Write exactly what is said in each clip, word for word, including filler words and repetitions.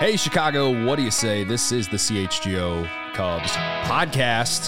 Hey, Chicago, what do you say? This is the C H G O Cubs podcast.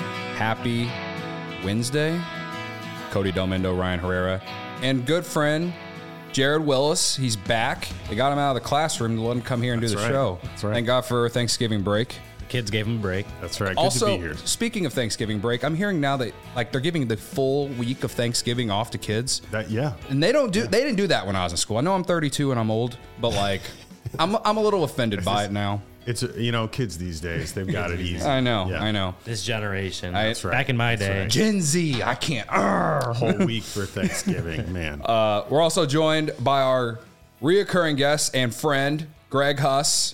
Happy Wednesday. Cody Delmendo, Ryan Herrera, and good friend Jared Willis. He's back. They got him out of the classroom to let him come here and That's do the right. show. That's right. Thank God for Thanksgiving break. The kids gave him a break. That's right. Good also, to be here. speaking of Thanksgiving break, I'm hearing now that like they're giving the full week of Thanksgiving off to kids. That, yeah. And they don't do they didn't do that when I was in school. I know I'm thirty-two and I'm old, but like I'm I'm a little offended by it now. It's, a, you know, kids these days, they've got it easy. I know, Yeah. I know. This generation. I- That's right. Back in my That's day. right. Gen Z, I can't. Arr. Whole week for Thanksgiving, man. Uh, we're also joined by our reoccurring guest and friend, Greg Huss,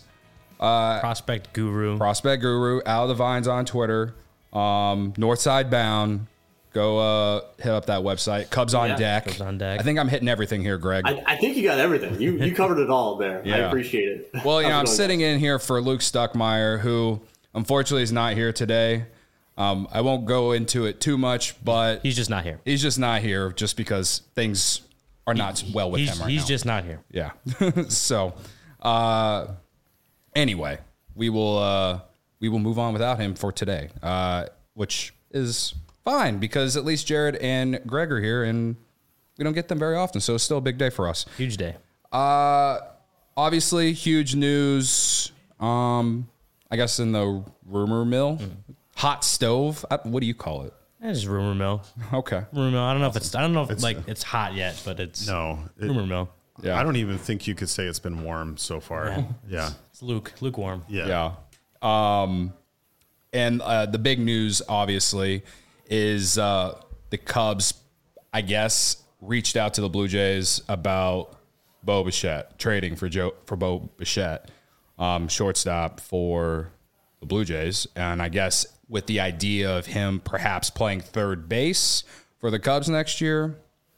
Prospect guru. Prospect Guru, out of the vines on Twitter, um, Northside Bound. Go uh, hit up that website. Cubs on Yeah, deck. Cubs on deck. I think I'm hitting everything here, Greg. I, I think you got everything. You you covered it all there. Yeah. I appreciate it. well, you know, I'm How's it going, sitting in here for Luke Stuckmeyer, who unfortunately is not here today. Um, I won't go into it too much, but He's just not here. he's just not here just because things are not well with he's him right he's now. just not here. Yeah. so, uh, anyway, we will uh, we will move on without him for today, uh, which is fine because at least Jared and Greg are here, and we don't get them very often, so it's still a big day for us. Huge day. Uh, obviously, huge news. Um, I guess in the rumor mill, hot stove. I, what do you call it? It's just rumor mill. Okay. Rumor mill. I don't know if it's. I don't know if It's- like it's hot yet, but it's no. It, rumor mill. Yeah. I don't even think you could say it's been warm so far. Yeah. Yeah. It's luke lukewarm. Yeah. Yeah. Um, and uh, the big news, obviously, is uh, the Cubs, I guess, reached out to the Blue Jays about Bo Bichette, trading for Joe for Bo Bichette, um, shortstop for the Blue Jays. And I guess with the idea of him perhaps playing third base for the Cubs next year.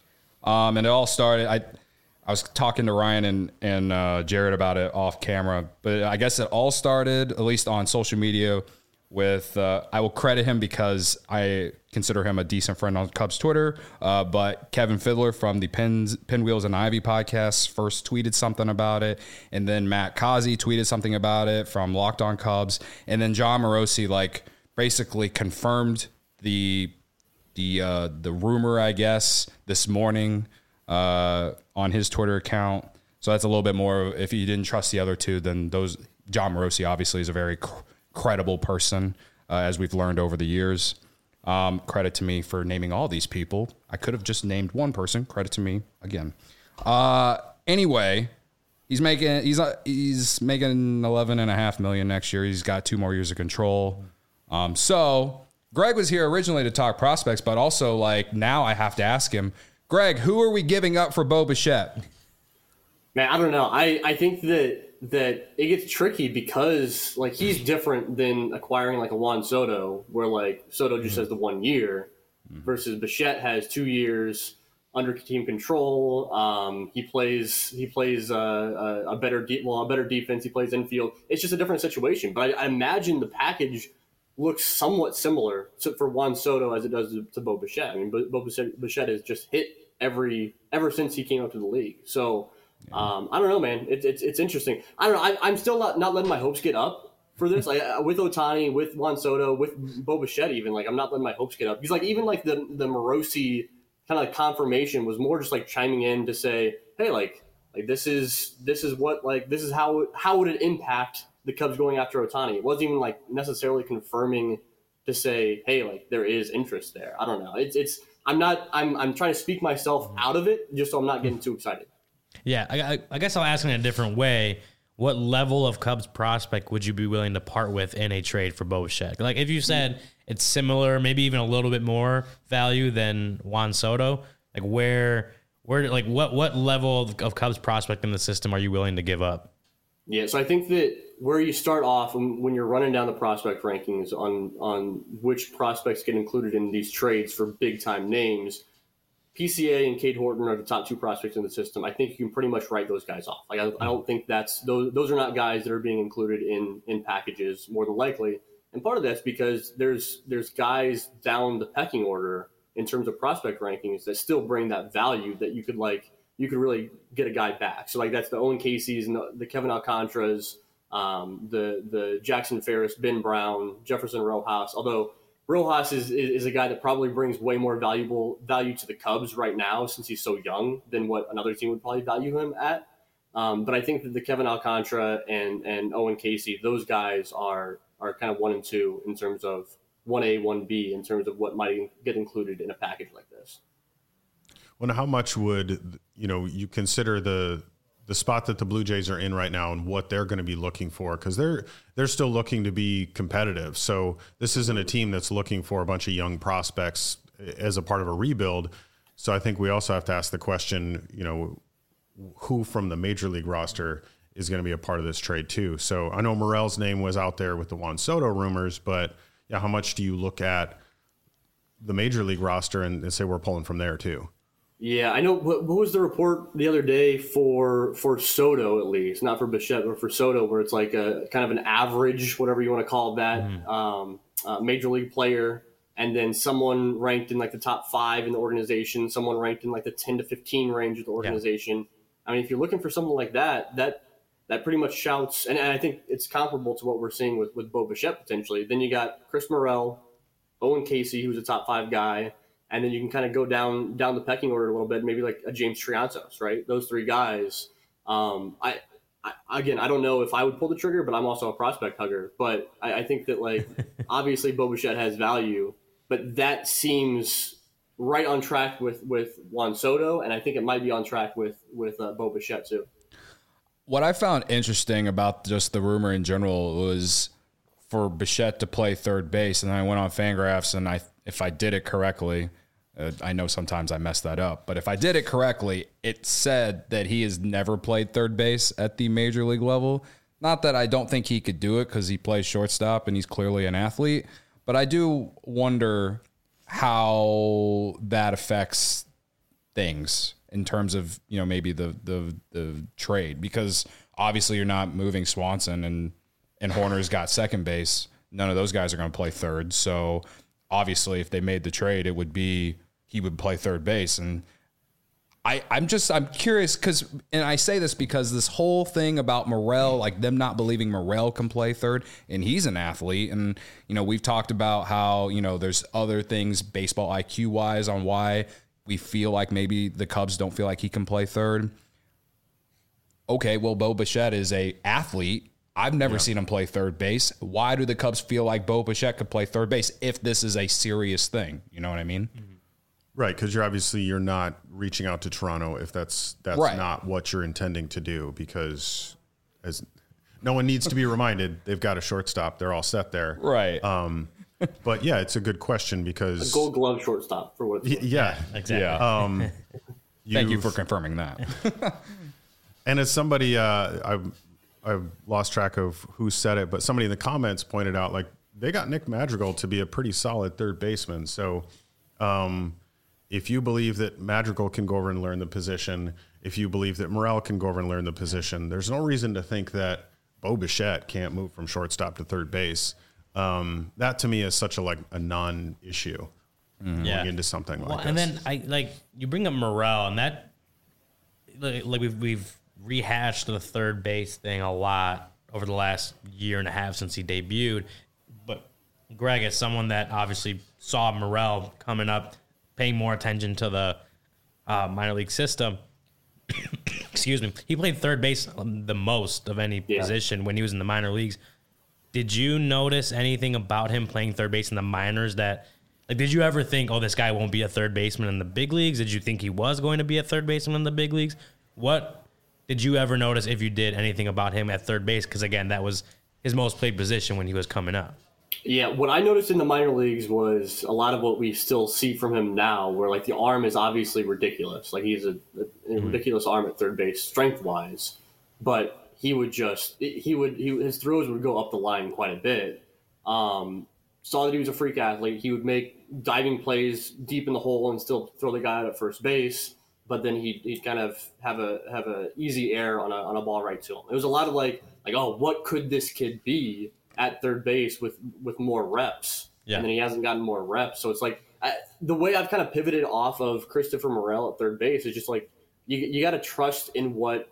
Um, and it all started, I I was talking to Ryan and, and uh, Jared about it off camera, but I guess it all started, at least on social media, with, uh, I will credit him because I consider him a decent friend on Cubs Twitter, uh, but Kevin Fiddler from the Pins, Pinwheels and Ivy podcast first tweeted something about it, and then Matt Kazi tweeted something about it from Locked On Cubs, and then John Morosi, like, basically confirmed the the uh, the rumor, I guess, this morning uh, on his Twitter account. So that's a little bit more. If you didn't trust the other two, then those John Morosi obviously is a very cr- credible person, uh, as we've learned over the years. Um, credit to me for naming all these people. I could have just named one person. Credit to me again. Uh, anyway, he's making he's uh, he's making eleven and a half million next year. He's got two more years of control. Um, so Greg was here originally to talk prospects, but also like now I have to ask him, Greg, who are we giving up for Bo Bichette? Man, I don't know. I, I think that that it gets tricky because like he's different than acquiring like a Juan Soto, where like Soto just has the one year, versus Bichette has two years under team control. Um, he plays he plays uh, a, a better de- well a better defense. He plays infield. It's just a different situation. But I, I imagine the package looks somewhat similar to, for Juan Soto as it does to, to Bo Bichette. I mean, Bo, Bo Bichette, Bichette has just hit every ever since he came up to the league. So um, I don't know, man. It's it's it's interesting. I don't know. I, I'm still not, not letting my hopes get up for this. Like uh, with Ohtani, with Juan Soto, with Bo Bichette, even like I'm not letting my hopes get up because like even like the the Morosi kind of like confirmation was more just like chiming in to say, hey, like like this is this is what like this is how how would it impact the Cubs going after Ohtani. It wasn't even like necessarily confirming to say, hey, like there is interest there. I don't know. It's it's I'm not I'm I'm trying to speak myself out of it just so I'm not getting too excited. Yeah, I, I, I guess I'll ask in a different way. What level of Cubs prospect would you be willing to part with in a trade for Bo Bichette? Like if you said it's similar, maybe even a little bit more value than Juan Soto, like where where like what what level of, of Cubs prospect in the system are you willing to give up? Yeah, so I think that where you start off when, when you're running down the prospect rankings on on which prospects get included in these trades for big time names, P C A and Cade Horton are the top two prospects in the system. I think you can pretty much write those guys off. Like I, I don't think that's those those are not guys that are being included in in packages more than likely. And part of that's because there's there's guys down the pecking order in terms of prospect rankings that still bring that value that you could like you could really get a guy back. So like that's the Owen Casey's and the, the Kevin Alcantara's, um, the the Jackson Ferris, Ben Brown, Jefferson Rojas. Although Rojas is, is is a guy that probably brings way more valuable value to the Cubs right now since he's so young than what another team would probably value him at. Um, but I think that the Kevin Alcantara and and Owen Casey, those guys are are kind of one and two in terms of one A, one B in terms of what might get included in a package like this. Well, how much would, you know, you consider the the spot that the Blue Jays are in right now and what they're going to be looking for? Because they're they're still looking to be competitive. So this isn't a team that's looking for a bunch of young prospects as a part of a rebuild. So I think we also have to ask the question, you know, who from the major league roster is going to be a part of this trade too. So I know Morel's name was out there with the Juan Soto rumors, but yeah, how much do you look at the major league roster and, and say we're pulling from there too? Yeah, I know. What, what was the report the other day for for Soto, at least not for Bichette, but for Soto, where it's like a kind of an average, whatever you want to call that, mm. um, uh, major league player, and then someone ranked in like the top five in the organization, someone ranked in like the ten to fifteen range of the organization. Yeah. I mean, if you're looking for someone like that, that that pretty much shouts, and, and I think it's comparable to what we're seeing with, with Bo Bichette potentially. Then you got Chris Morel, Owen Casey, who's a top five guy, and then you can kind of go down down the pecking order a little bit, maybe like a James Triantos, right? Those three guys. Um, I, I again, I don't know if I would pull the trigger, but I'm also a prospect hugger. But I, I think that like obviously Bo Bichette has value, but that seems right on track with, with Juan Soto, and I think it might be on track with with uh, Bo Bichette too. What I found interesting about just the rumor in general was for Bichette to play third base, and I went on Fangraphs, and I, if I did it correctly, uh, I know sometimes I mess that up, but if I did it correctly, it said that he has never played third base at the major league level. Not that I don't think he could do it because he plays shortstop and he's clearly an athlete, but I do wonder how that affects things in terms of, you know, maybe the the the trade, because obviously you're not moving Swanson and and Horner's got second base. None of those guys are going to play third. So obviously if they made the trade, it would be he would play third base. And I, I'm just, I'm curious because, and I say this because this whole thing about Morel, like them not believing Morel can play third, and he's an athlete. And, you know, we've talked about how, you know, there's other things baseball I Q wise on why we feel like maybe the Cubs don't feel like he can play third. Okay, well, Bo Bichette is a athlete. I've never yeah. seen him play third base. Why do the Cubs feel like Bo Bichette could play third base if this is a serious thing? You know what I mean? Mm-hmm. Right, because you're obviously you're not reaching out to Toronto if that's that's right. not what you're intending to do, because as no one needs to be reminded, they've got a shortstop. They're all set there. Right. Um, but, yeah, it's a good question because... A gold glove shortstop for what it's y- Yeah. yeah. Exactly. Yeah. Um, Thank you for confirming that. And as somebody, uh, I've, I've lost track of who said it, but somebody in the comments pointed out, like, they got Nick Madrigal to be a pretty solid third baseman. So... Um, if you believe that Madrigal can go over and learn the position, if you believe that Morel can go over and learn the position, there's no reason to think that Bo Bichette can't move from shortstop to third base. Um, that to me is such a like a non-issue mm-hmm. yeah. going into something like well, this. And then I like you bring up Morel, and that like, like we've we've rehashed the third base thing a lot over the last year and a half since he debuted. But Greg, as someone that obviously saw Morel coming up, paying more attention to the uh, minor league system. Excuse me. He played third base the most of any yeah. position when he was in the minor leagues. Did you notice anything about him playing third base in the minors that, like, did you ever think, oh, this guy won't be a third baseman in the big leagues? Did you think he was going to be a third baseman in the big leagues? What did you ever notice, if you did, anything about him at third base? Because, again, that was his most played position when he was coming up. Yeah, what I noticed in the minor leagues was a lot of what we still see from him now, where like the arm is obviously ridiculous. Like he's a, a mm-hmm. ridiculous arm at third base, strength wise, but he would just he would he, his throws would go up the line quite a bit. Um, saw that he was a freak athlete. He would make diving plays deep in the hole and still throw the guy out at first base, but then he'd, he'd kind of have a have a easy air on a on a ball right to him. It was a lot of like like oh, what could this kid be at third base with, with more reps, yeah. and then he hasn't gotten more reps. So it's like I, the way I've kind of pivoted off of Christopher Morel at third base is just like you you got to trust in what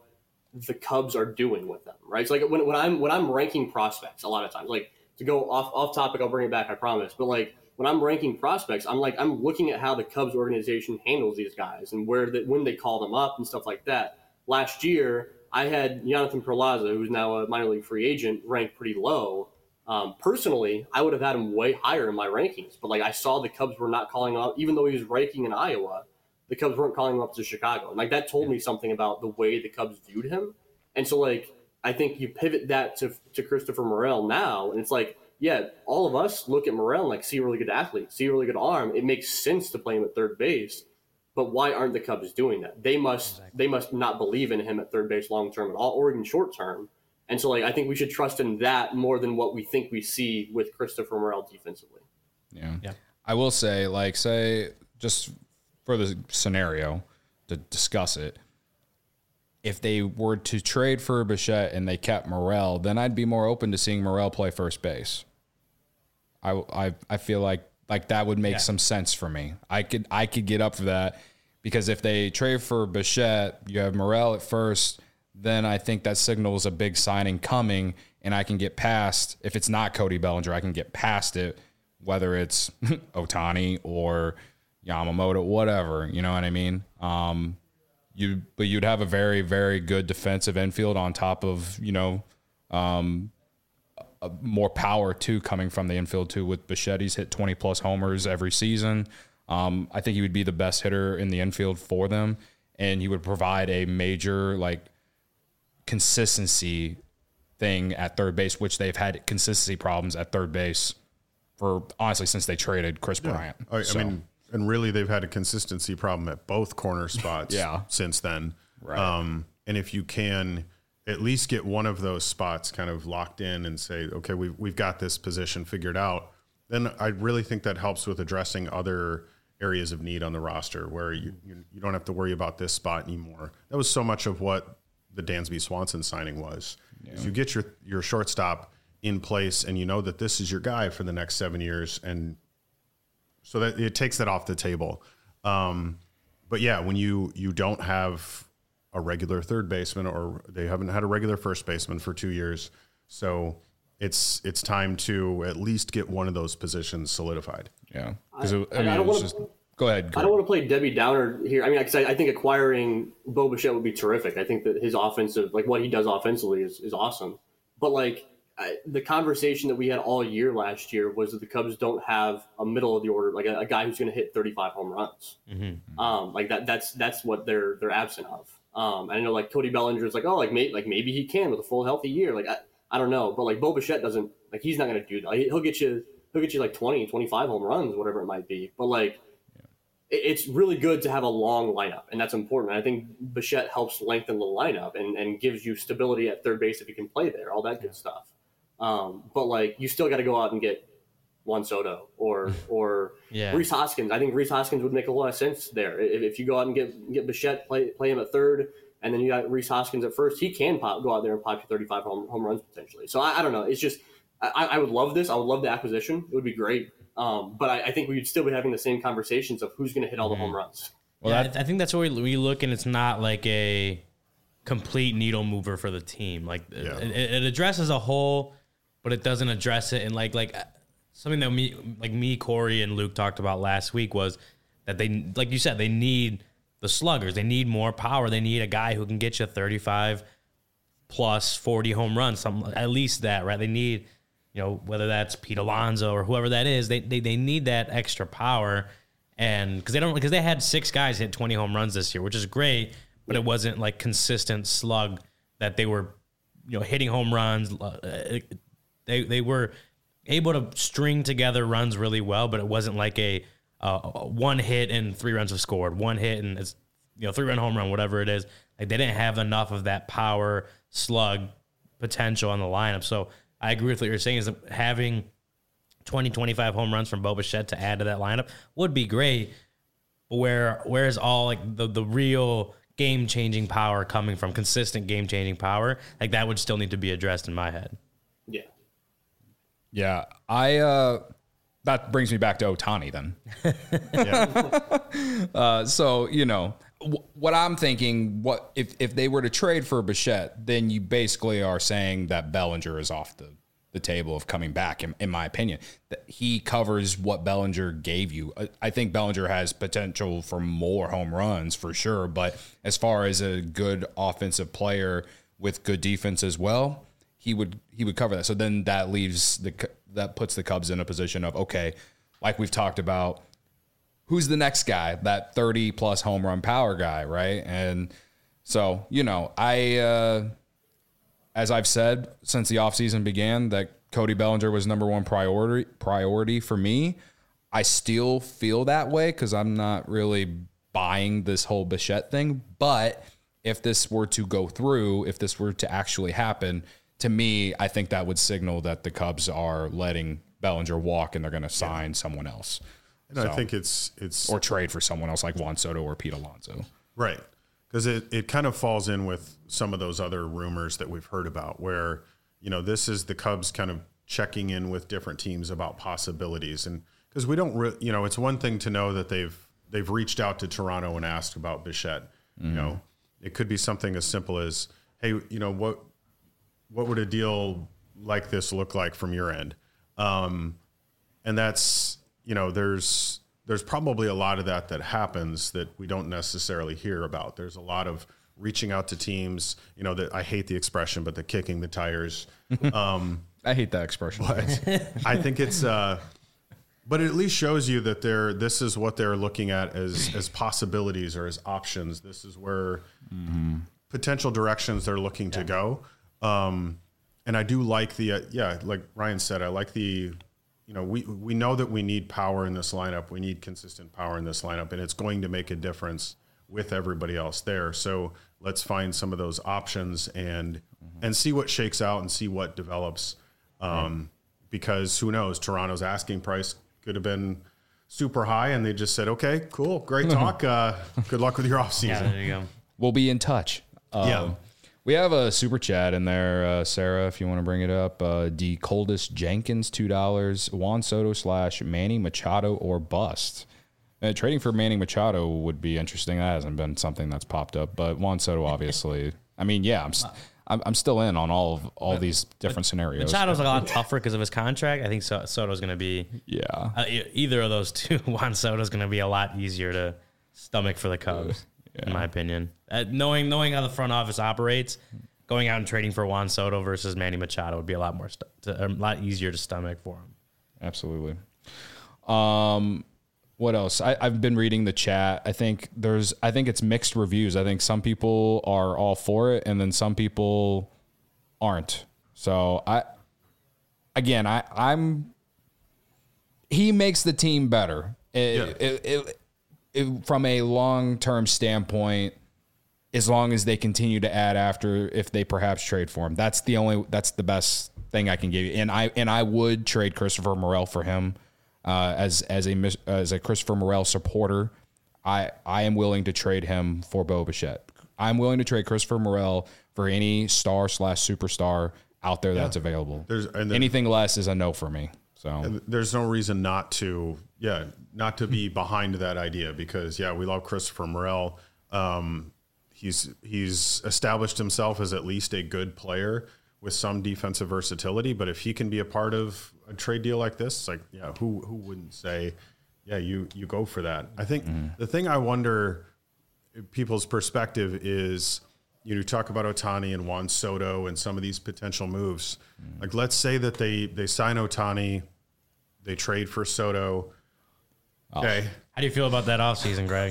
the Cubs are doing with them, right? So like when, when I'm when I'm ranking prospects, a lot of times, like to go off off topic, I'll bring it back, I promise. But like when I'm ranking prospects, I'm like I'm looking at how the Cubs organization handles these guys and where that when they call them up and stuff like that. Last year, I had Jonathan Perlaza, who's now a minor league free agent, ranked pretty low. Um, personally, I would have had him way higher in my rankings, but like I saw the Cubs were not calling up, even though he was ranking in Iowa, the Cubs weren't calling him up to Chicago. And like that told me something about the way the Cubs viewed him. And so like I think you pivot that to to Christopher Morel now, and it's like, yeah, all of us look at Morel and like see a really good athlete, see a really good arm. It makes sense to play him at third base. But why aren't the Cubs doing that? They must exactly. they must not believe in him at third base long term at all, or even short term. And so, like, I think we should trust in that more than what we think we see with Christopher Morel defensively. Yeah, yeah. I will say, like, say just for the scenario to discuss it, if they were to trade for Bichette and they kept Morel, then I'd be more open to seeing Morel play first base. I I I feel like. Like that would make yeah. some sense for me. I could I could get up for that because if they trade for Bichette, you have Morel at first, then I think that signals a big signing coming, and I can get past. If it's not Cody Bellinger, I can get past it, whether it's Ohtani or Yamamoto, whatever. You know what I mean? Um, you but you'd have a very very good defensive infield on top of you know. Um, Uh, more power too coming from the infield too with Bichette. He's hit twenty plus homers every season. Um, I think he would be the best hitter in the infield for them, and he would provide a major like consistency thing at third base, which they've had consistency problems at third base for honestly since they traded Chris yeah. Bryant. I, so. I mean, and really they've had a consistency problem at both corner spots yeah. since then. Right. Um, and if you can at least get one of those spots kind of locked in and say, okay, we've, we've got this position figured out, then I really think that helps with addressing other areas of need on the roster where you, you, you don't have to worry about this spot anymore. That was so much of what the Dansby Swanson signing was. Yeah. Is you get your, your shortstop in place and you know that this is your guy for the next seven years. And so that it takes that off the table. Um, but yeah, when you, you don't have a regular third baseman, or they haven't had a regular first baseman for two years. So it's it's time to at least get one of those positions solidified. Yeah. I, I, mean, I don't want to go ahead. Go I don't want to play Debbie Downer here. I mean, I, I think acquiring Bo Bichette would be terrific. I think that his offensive, like what he does offensively is, is awesome. But like I, the conversation that we had all year last year was that the Cubs don't have a middle of the order, like a, a guy who's going to hit thirty-five home runs. Mm-hmm. Um, like that, that's, that's what they're, they're absent of. Um, and I know like Cody Bellinger is like, oh, like maybe, like maybe he can with a full healthy year. Like, I, I don't know, but like Bo Bichette doesn't, like, he's not going to do that. He'll get you, he'll get you like twenty, twenty-five home runs, whatever it might be. But like, yeah. it, it's really good to have a long lineup, and that's important. I think Bichette helps lengthen the lineup and, and gives you stability at third base if you can play there, all that good stuff. Um, but like, you still got to go out and get Juan Soto or or yeah. Rhys Hoskins. I think Rhys Hoskins would make a lot of sense there. If, if you go out and get get Bichette, play play him at third, and then you got Rhys Hoskins at first, he can pop, go out there and pop you thirty-five home, home runs potentially. So I, I don't know. It's just I, I would love this. I would love the acquisition. It would be great. Um, but I, I think we would still be having the same conversations of who's going to hit all the mm-hmm. home runs. Well, yeah, I think that's where we, we look, and it's not like a complete needle mover for the team. Like yeah. it, it addresses a hole, but it doesn't address it. And like like. Something that me, like me, Corey, and Luke talked about last week was that they, like you said, they need the sluggers. They need more power. They need a guy who can get you thirty-five plus forty home runs, something at least that, right? They need, you know, whether that's Pete Alonso or whoever that is. They they, they need that extra power, and because they don't because they had six guys hit twenty home runs this year, which is great, but it wasn't like consistent slug that they were, you know, hitting home runs. They they were able to string together runs really well, but it wasn't like a, uh, one hit and three runs have scored, one hit and it's, you know, three run home run, whatever it is. Like they didn't have enough of that power slug potential on the lineup. So I agree with what you're saying is that having twenty, twenty-five home runs from Bo Bichette to add to that lineup would be great. But where, where's all like the, the real game changing power coming from, consistent game changing power? Like that would still need to be addressed in my head. Yeah. Yeah, I. Uh, that brings me back to Ohtani then. yeah. uh, so you know, what I'm thinking, what if, if they were to trade for Bichette, then you basically are saying that Bellinger is off the, the table of coming back, in, in my opinion. That he covers what Bellinger gave you. I, I think Bellinger has potential for more home runs for sure, but as far as a good offensive player with good defense as well, he would he would cover that. So then that leaves the that puts the Cubs in a position of, okay, like we've talked about, who's the next guy, that thirty plus home run power guy, right? And so, you know, I, uh, as I've said since the offseason began, that Cody Bellinger was number one priority priority for me. I still feel that way because I'm not really buying this whole Bichette thing. But if this were to go through, if this were to actually happen, to me, I think that would signal that the Cubs are letting Bellinger walk and they're going to sign yeah. someone else. And so, I think it's it's or trade for someone else like Juan Soto or Pete Alonso. Right. Because it, it kind of falls in with some of those other rumors that we've heard about where, you know, this is the Cubs kind of checking in with different teams about possibilities. And because we don't, re- you know, it's one thing to know that they've they've reached out to Toronto and asked about Bichette. Mm-hmm. You know, it could be something as simple as, hey, you know, what what would a deal like this look like from your end? Um, and that's, you know, there's there's probably a lot of that that happens that we don't necessarily hear about. There's a lot of reaching out to teams, you know, that I hate the expression, but the kicking the tires. Um, I hate that expression. But I think it's, uh, but it at least shows you that they're, this is what they're looking at as, as possibilities or as options. This is where mm-hmm. potential directions they're looking yeah. to go. Um, and I do like the, uh, yeah, like Ryan said, I like the, you know, we, we know that we need power in this lineup. We need consistent power in this lineup, and it's going to make a difference with everybody else there. So let's find some of those options and, mm-hmm. and see what shakes out and see what develops. Um, right. Because who knows, Toronto's asking price could have been super high and they just said, okay, cool. Great talk. Uh, good luck with your off season. Yeah, there you go. We'll be in touch. Um, yeah. We have a super chat in there, uh, Sarah, if you want to bring it up. Uh, D. Coldest Jenkins, two dollars. Juan Soto slash Manny Machado or bust. Uh, trading for Manny Machado would be interesting. That hasn't been something that's popped up. But Juan Soto, obviously. I mean, yeah, I'm, st- I'm I'm still in on all of all these different scenarios. Machado's a lot tougher because of his contract. I think so- Soto's going to be. Yeah. Uh, either of those two, Juan Soto's going to be a lot easier to stomach for the Cubs. Yeah. In my opinion, uh, knowing knowing how the front office operates, going out and trading for Juan Soto versus Manny Machado would be a lot more st- to, a lot easier to stomach for him. Absolutely. Um, what else? I, I've been reading the chat. I think there's I think it's mixed reviews. I think some people are all for it, and then some people aren't. So I, again, I I'm. He makes the team better. It, yeah. it, it, It, from a long-term standpoint, as long as they continue to add after, if they perhaps trade for him, that's the only, that's the best thing I can give you. And I, and I would trade Christopher Morel for him, uh, as, as a, as a Christopher Morel supporter. I, I am willing to trade him for Bo Bichette. I'm willing to trade Christopher Morel for any star slash superstar out there yeah. that's available. There's, and then, anything less is a no for me. So there's no reason not to, yeah, not to be behind that idea because, yeah, we love Christopher Morel. Um, he's he's established himself as at least a good player with some defensive versatility. But if he can be a part of a trade deal like this, it's like, yeah, who who wouldn't say, yeah, you you go for that? I think mm-hmm. the thing I wonder, people's perspective is, you know, talk about Ohtani and Juan Soto and some of these potential moves. Mm-hmm. Like, let's say that they they sign Ohtani, they trade for Soto. Okay. How do you feel about that offseason, Greg?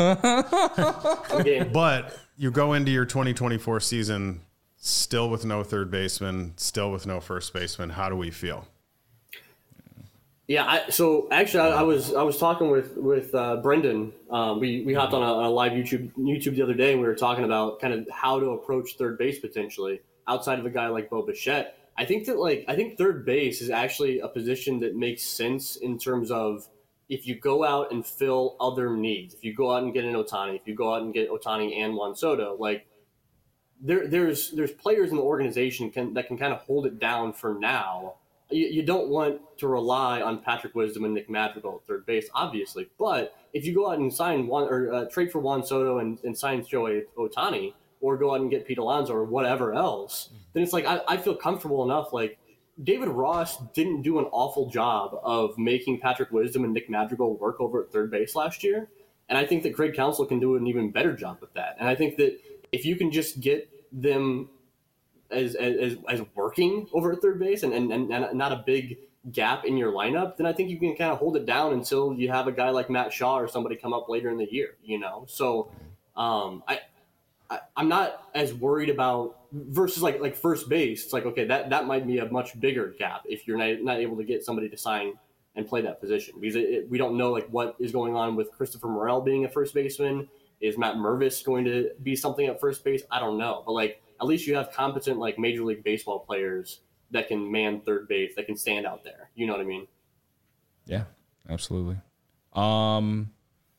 But you go into your twenty twenty-four season still with no third baseman, still with no first baseman. How do we feel? Yeah, I, so actually, I, I was I was talking with with uh, Brendan. Um, we we hopped on a, a live YouTube YouTube the other day, and we were talking about kind of how to approach third base potentially outside of a guy like Bo Bichette. I think that like I think third base is actually a position that makes sense in terms of if you go out and fill other needs. If you go out and get an Ohtani, if you go out and get Ohtani and Juan Soto, like there there's there's players in the organization can, that can kind of hold it down for now you, you don't want to rely on Patrick Wisdom and Nick Madrigal at third base, obviously. But if you go out and sign one or uh, trade for Juan Soto and, and sign Shohei Ohtani, or go out and get Pete Alonso or whatever else, then it's like I, I feel comfortable enough. Like David Ross didn't do an awful job of making Patrick Wisdom and Nick Madrigal work over at third base last year. And I think that Craig Counsell can do an even better job with that. And I think that if you can just get them as as, as working over at third base and, and, and not a big gap in your lineup, then I think you can kind of hold it down until you have a guy like Matt Shaw or somebody come up later in the year, you know? So um, I, I, I'm not as worried about versus like like first base. It's like, okay, that, that might be a much bigger gap if you're not, not able to get somebody to sign and play that position, because it, it, we don't know like what is going on with Christopher Morel being a first baseman. Is Matt Mervis going to be something at first base? I don't know. But like, at least you have competent like Major League Baseball players that can man third base, that can stand out there. You know what I mean? Yeah, absolutely. Um,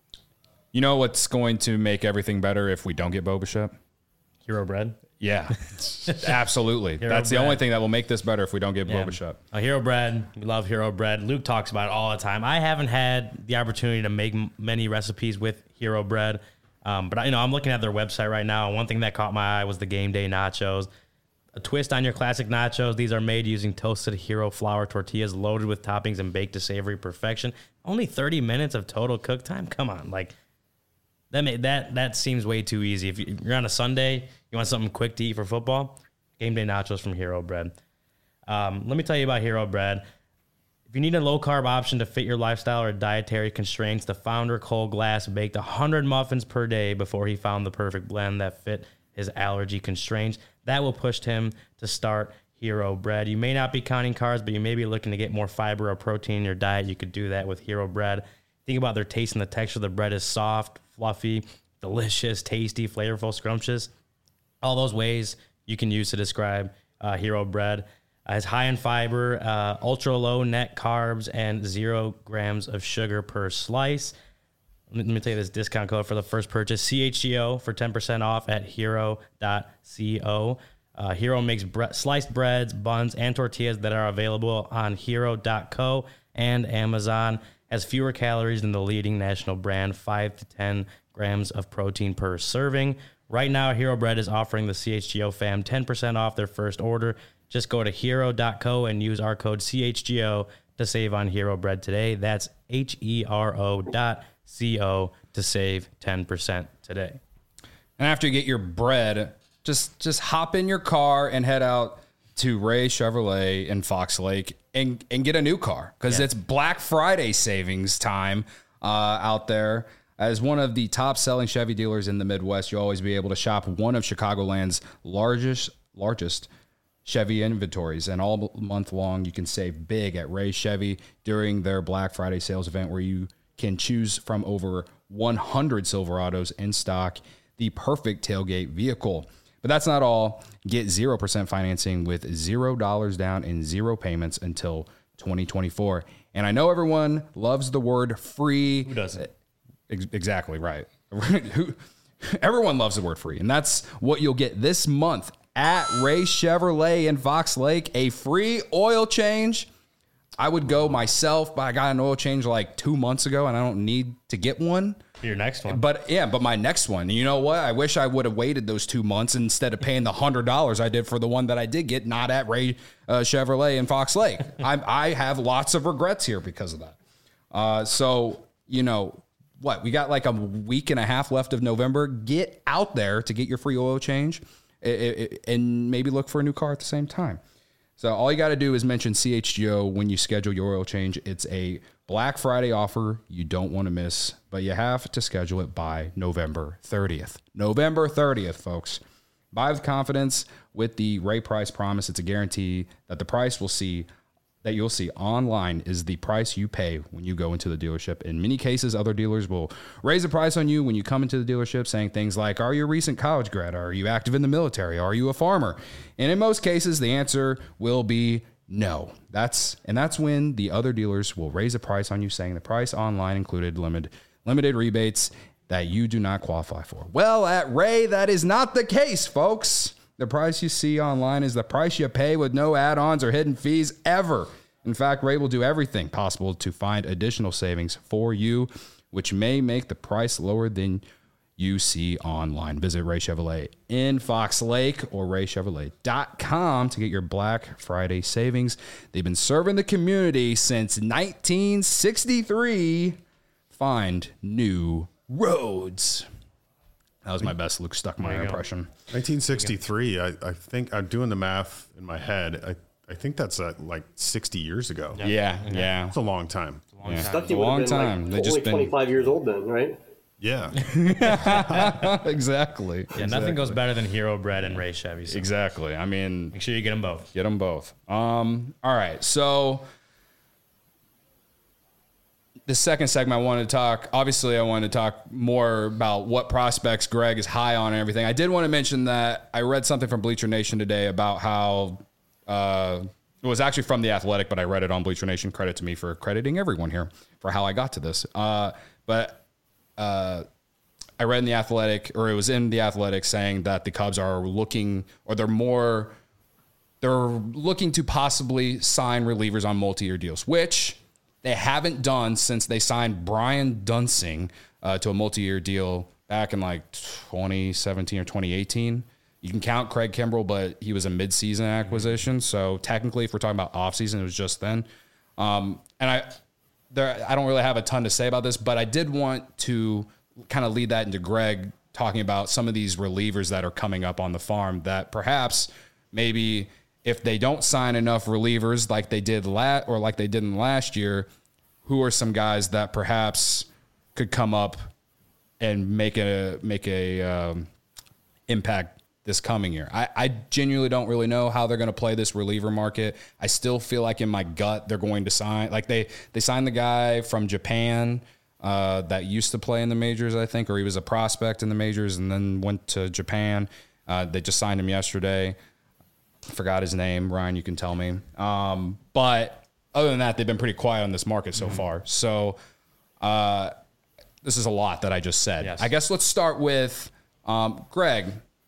you know what's going to make everything better if we don't get Bo Bichette? Hero bread. Yeah, absolutely. Hero That's the bread. only thing that will make this better if we don't get Yeah. Bo Bichette. Uh, Hero bread. We love Hero bread. Luke talks about it all the time. I haven't had the opportunity to make m- many recipes with Hero bread. Um, but, you know, I'm looking at their website right now. And one thing that caught my eye was the game day nachos. A twist on your classic nachos. These are made using toasted Hero flour tortillas loaded with toppings and baked to savory perfection. Only thirty minutes of total cook time? Come on. Like, that may, that that seems way too easy. If you- you're on a Sunday, you want something quick to eat for football, game day nachos from Hero Bread. Um, let me tell you about Hero Bread. If you need a low-carb option to fit your lifestyle or dietary constraints, the founder, Cole Glass, baked one hundred muffins per day before he found the perfect blend that fit his allergy constraints. That will push him to start Hero Bread. You may not be counting carbs, but you may be looking to get more fiber or protein in your diet. You could do that with Hero Bread. Think about their taste and the texture. The bread is soft, fluffy, delicious, tasty, flavorful, scrumptious. All those ways you can use to describe uh, Hero Bread. Uh, it's high in fiber, uh, ultra low net carbs, and zero grams of sugar per slice. Let me tell you this discount code for the first purchase, C H G O, for ten percent off at hero dot co. Uh, Hero makes bre- sliced breads, buns, and tortillas that are available on hero dot co and Amazon. Has fewer calories than the leading national brand, five to ten grams of protein per serving. Right now, Hero Bread is offering the C H G O fam ten percent off their first order. Just go to hero dot co and use our code C H G O to save on Hero Bread today. That's H E R O dot C O to save ten percent today. And after you get your bread, just just hop in your car and head out to Ray Chevrolet in Fox Lake and, and get a new car, because Yeah. it's Black Friday savings time uh, out there. As one of the top-selling Chevy dealers in the Midwest, you'll always be able to shop one of Chicagoland's largest largest Chevy inventories. And all month long, you can save big at Ray Chevy during their Black Friday sales event, where you can choose from over one hundred Silverados in stock, the perfect tailgate vehicle. But that's not all. Get zero percent financing with zero dollars down and zero payments until twenty twenty-four. And I know everyone loves the word free. Who doesn't? Ex- Exactly right. Who- Everyone loves the word free. And that's what you'll get this month at Ray Chevrolet in Fox Lake, a free oil change. I would go myself, but I got an oil change like two months ago and I don't need to get one. Your next one. But yeah, but my next one, you know what? I wish I would have waited those two months instead of paying the hundred dollars I did for the one that I did get, not at Ray uh, Chevrolet in Fox Lake. I, I have lots of regrets here because of that. Uh, so, you know, what? We got like a week and a half left of November. Get out there to get your free oil change it, it, and maybe look for a new car at the same time. So all you got to do is mention C H G O when you schedule your oil change. It's a Black Friday offer you don't want to miss, but you have to schedule it by November thirtieth. November thirtieth, folks. Buy with confidence with the Ray Price Promise. It's a guarantee that the price we'll see that you'll see online is the price you pay when you go into the dealership. In many cases, other dealers will raise the price on you when you come into the dealership, saying things like, are you a recent college grad? Are you active in the military? Are you a farmer? And in most cases, the answer will be no. That's and that's when the other dealers will raise the price on you, saying the price online included limited limited rebates that you do not qualify for. Well, at Ray, that is not the case, folks. The price you see online is the price you pay with no add-ons or hidden fees ever. In fact, Ray will do everything possible to find additional savings for you, which may make the price lower than you see online. Visit Ray Chevrolet in Fox Lake or ray chevrolet dot com to get your Black Friday savings. They've been serving the community since nineteen sixty-three. Find new roads. That was my best Luke Stuckmeyer impression. nineteen sixty-three, I, I think I'm doing the math in my head. I, I think that's uh, like sixty years ago. Yeah, yeah. yeah. It's a long time. It's a long Yeah. time. Stucky It's a would have long been time. like They just only been- twenty-five years old then, right? Yeah. exactly. Yeah, nothing goes better than Hero Bread and Ray Chevy. So Exactly. I mean, make sure you get them both. get them both. Um, all right. So the second segment I wanted to talk, obviously I wanted to talk more about what prospects Greg is high on and everything. I did want to mention that I read something from Bleacher Nation today about how uh, it was actually from The Athletic, but I read it on Bleacher Nation. Credit to me for crediting everyone here for how I got to this. Uh, but uh, I read in The Athletic, or it was in The Athletic, saying that the Cubs are looking, or they're more, they're looking to possibly sign relievers on multi-year deals, which they haven't done since they signed Brian Dunsing uh, to a multi-year deal back in like twenty seventeen or twenty eighteen. You can count Craig Kimbrell, but he was a mid-season acquisition. So technically, if we're talking about off-season, it was just then. Um, and I, there, I don't really have a ton to say about this, but I did want to kind of lead that into Greg talking about some of these relievers that are coming up on the farm that perhaps maybe if they don't sign enough relievers like they did last or like they did in last year, who are some guys that perhaps could come up and make a make a um, impact this coming year? I, I genuinely don't really know how they're going to play this reliever market. I still feel like in my gut they're going to sign, like they they signed the guy from Japan uh, that used to play in the majors, I think, or he was a prospect in the majors and then went to Japan. Uh, they just signed him yesterday. Forgot his name. Ryan, you can tell me. Um, but other than that, they've been pretty quiet on this market so mm-hmm. far. So uh, this is a lot that I just said. Yes. I guess let's start with um, Greg.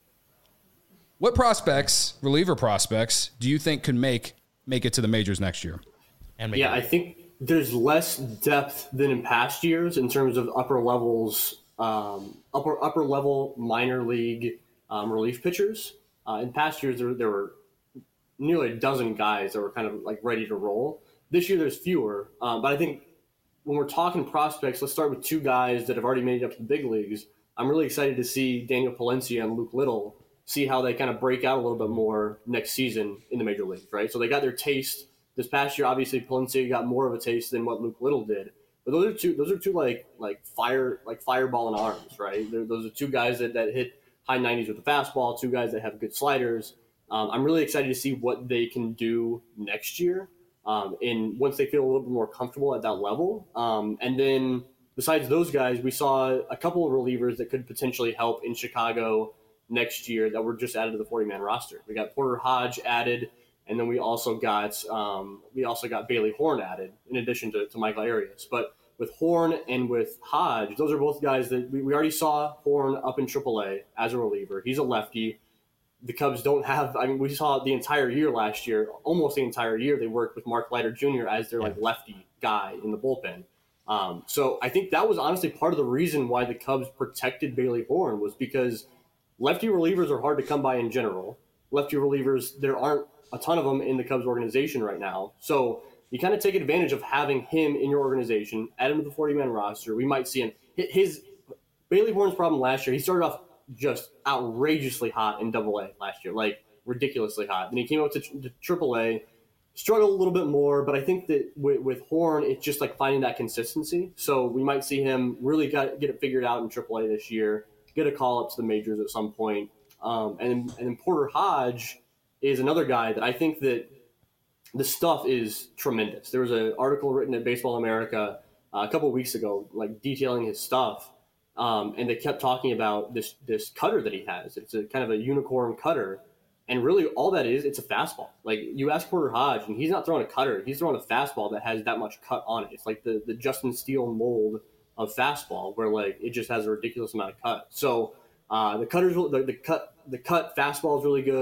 What prospects, reliever prospects, do you think could make make it to the majors next year? And make Yeah, it. I think there's less depth than in past years in terms of upper levels, um, upper upper level minor league um, relief pitchers. Uh, in past years, there, there were nearly a dozen guys that were kind of like ready to roll. This year, there's fewer. Um, but I think when we're talking prospects, let's start with two guys that have already made it up to the big leagues. I'm really excited to see Daniel Palencia and Luke Little, see how they kind of break out a little bit more next season in the major leagues, right? So they got their taste this past year. Obviously, Palencia got more of a taste than what Luke Little did. But those are two. Those are two like like fire like fireball in arms, right? They're, those are two guys that, that hit high nineties with the fastball. Two guys that have good sliders. Um, I'm really excited to see what they can do next year. Um, and once they feel a little bit more comfortable at that level, um, and then besides those guys, we saw a couple of relievers that could potentially help in Chicago next year that were just added to the forty-man roster. We got Porter Hodge added, and then we also got um, we also got Bailey Horn added in addition to, to Michael Arias. But with Horn and with Hodge, those are both guys that we, we already saw Horn up in triple A as a reliever. He's a lefty. The Cubs don't have, I mean, we saw the entire year last year, almost the entire year, they worked with Mark Leiter Junior as their like lefty guy in the bullpen. Um, so I think that was honestly part of the reason why the Cubs protected Bailey Horn was because lefty relievers are hard to come by in general. Lefty relievers, there aren't a ton of them in the Cubs organization right now. So you kind of take advantage of having him in your organization, add him to the forty-man roster. We might see him. His Bailey Horn's problem last year, he started off just outrageously hot in double A last year, like ridiculously hot. Then he came up to, to triple A, struggled a little bit more, but I think that with, with Horn, it's just like finding that consistency. So we might see him really got, get it figured out in triple A this year, get a call up to the majors at some point. Um, and, and then Porter Hodge is another guy that I think that the stuff is tremendous. There was an article written at Baseball America uh, a couple of weeks ago, like detailing his stuff. Um, and they kept talking about this this cutter that he has. It's a kind of a unicorn cutter. And really all that is, it's a fastball. Like you ask Porter Hodge, and he's not throwing a cutter. He's throwing a fastball that has that much cut on it. It's like the, the Justin Steele mold of fastball where like it just has a ridiculous amount of cut. So uh, the cutters, the, the cut, the cut fastball is really good.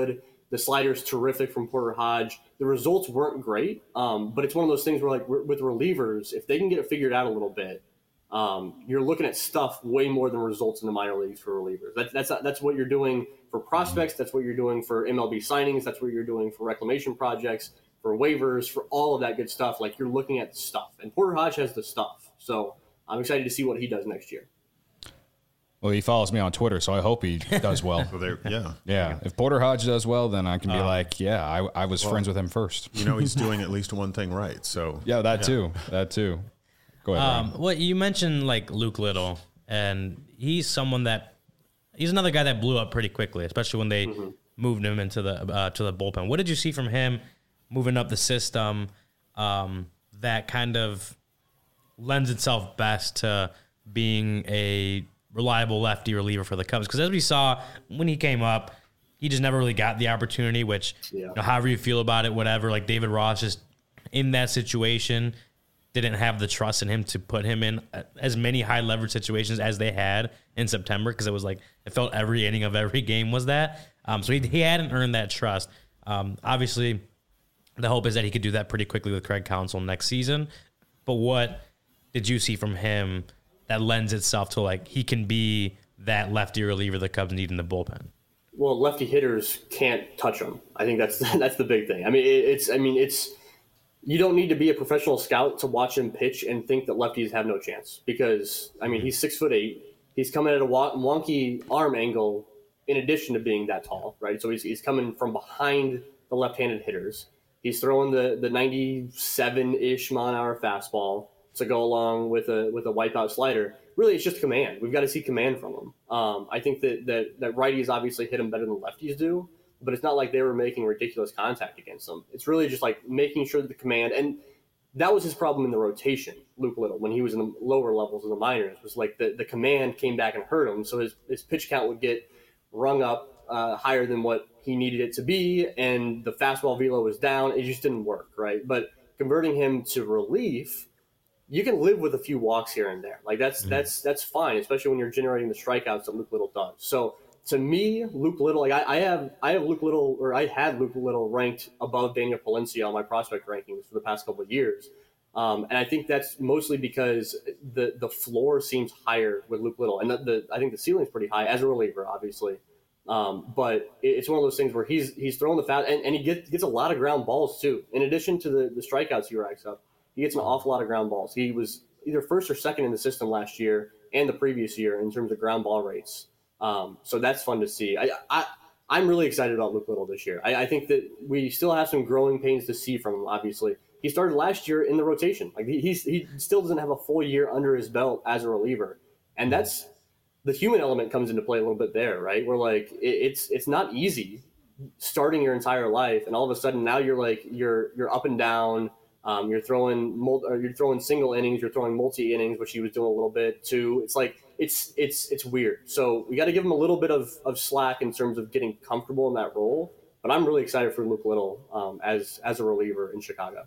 The slider's terrific from Porter Hodge. The results weren't great, um, but it's one of those things where, like, with relievers, if they can get it figured out a little bit, um, you're looking at stuff way more than results in the minor leagues for relievers. That, that's that's what you're doing for prospects. That's what you're doing for M L B signings. That's what you're doing for reclamation projects, for waivers, for all of that good stuff. Like, you're looking at the stuff, and Porter Hodge has the stuff. So I'm excited to see what he does next year. Well, he follows me on Twitter, so I hope he does well. So there, yeah. Yeah. If Porter Hodge does well, then I can be um, like, yeah, I, I was well, friends with him first. You know, he's doing at least one thing right. So yeah, that yeah. too. That too. Go ahead. Um, well, you mentioned like Luke Little, and he's someone that he's another guy that blew up pretty quickly, especially when they mm-hmm. moved him into the uh, to the bullpen. What did you see from him moving up the system um, that kind of lends itself best to being a reliable lefty reliever for the Cubs? Because as we saw when he came up, he just never really got the opportunity, which yeah. you know, however you feel about it, whatever, like David Ross just in that situation didn't have the trust in him to put him in as many high leverage situations as they had in September, because it was like it felt every inning of every game was that. Um, so he, he hadn't earned that trust. Um, obviously, the hope is that he could do that pretty quickly with Craig Counsell next season. But what did you see from him that lends itself to like he can be that lefty reliever the Cubs need in the bullpen? Well, lefty hitters can't touch him. I think that's that's the big thing. I mean, it's I mean it's you don't need to be a professional scout to watch him pitch and think that lefties have no chance, because I mean he's six foot eight. He's coming at a wonky arm angle in addition to being that tall, right? So he's he's coming from behind the left-handed hitters. He's throwing the the ninety-seven-ish mile an hour fastball to go along with a with a wipeout slider. Really, it's just command. We've got to see command from him. Um, I think that, that that righties obviously hit him better than lefties do, but it's not like they were making ridiculous contact against him. It's really just like making sure that the command, and that was his problem in the rotation, Luke Little, when he was in the lower levels of the minors, was like the, the command came back and hurt him, so his, his pitch count would get rung up uh, higher than what he needed it to be, and the fastball velo was down. It just didn't work, right? But converting him to relief, you can live with a few walks here and there. Like that's mm. that's that's fine, especially when you're generating the strikeouts that Luke Little does. So to me, Luke Little, like I, I have I have Luke Little, or I had Luke Little ranked above Daniel Palencia on my prospect rankings for the past couple of years. Um, and I think that's mostly because the the floor seems higher with Luke Little, and the, the I think the ceiling's pretty high as a reliever, obviously. Um, but it's one of those things where he's he's throwing the fast, and, and he gets gets a lot of ground balls too. In addition to the, the strikeouts he racks up, he gets an awful lot of ground balls. He was either first or second in the system last year and the previous year in terms of ground ball rates. Um, so that's fun to see. I, I I'm really excited about Luke Little this year. I, I think that we still have some growing pains to see from him. Obviously, he started last year in the rotation. Like he he's, he still doesn't have a full year under his belt as a reliever, and that's. The human element comes into play a little bit there, right? Where like it, it's it's not easy starting your entire life, and all of a sudden now you're like you're you're up and down. Um, you're throwing mul- or you're throwing single innings, you're throwing multi innings, which he was doing a little bit too. It's like it's it's it's weird. So we got to give him a little bit of, of slack in terms of getting comfortable in that role. But I'm really excited for Luke Little um, as as a reliever in Chicago.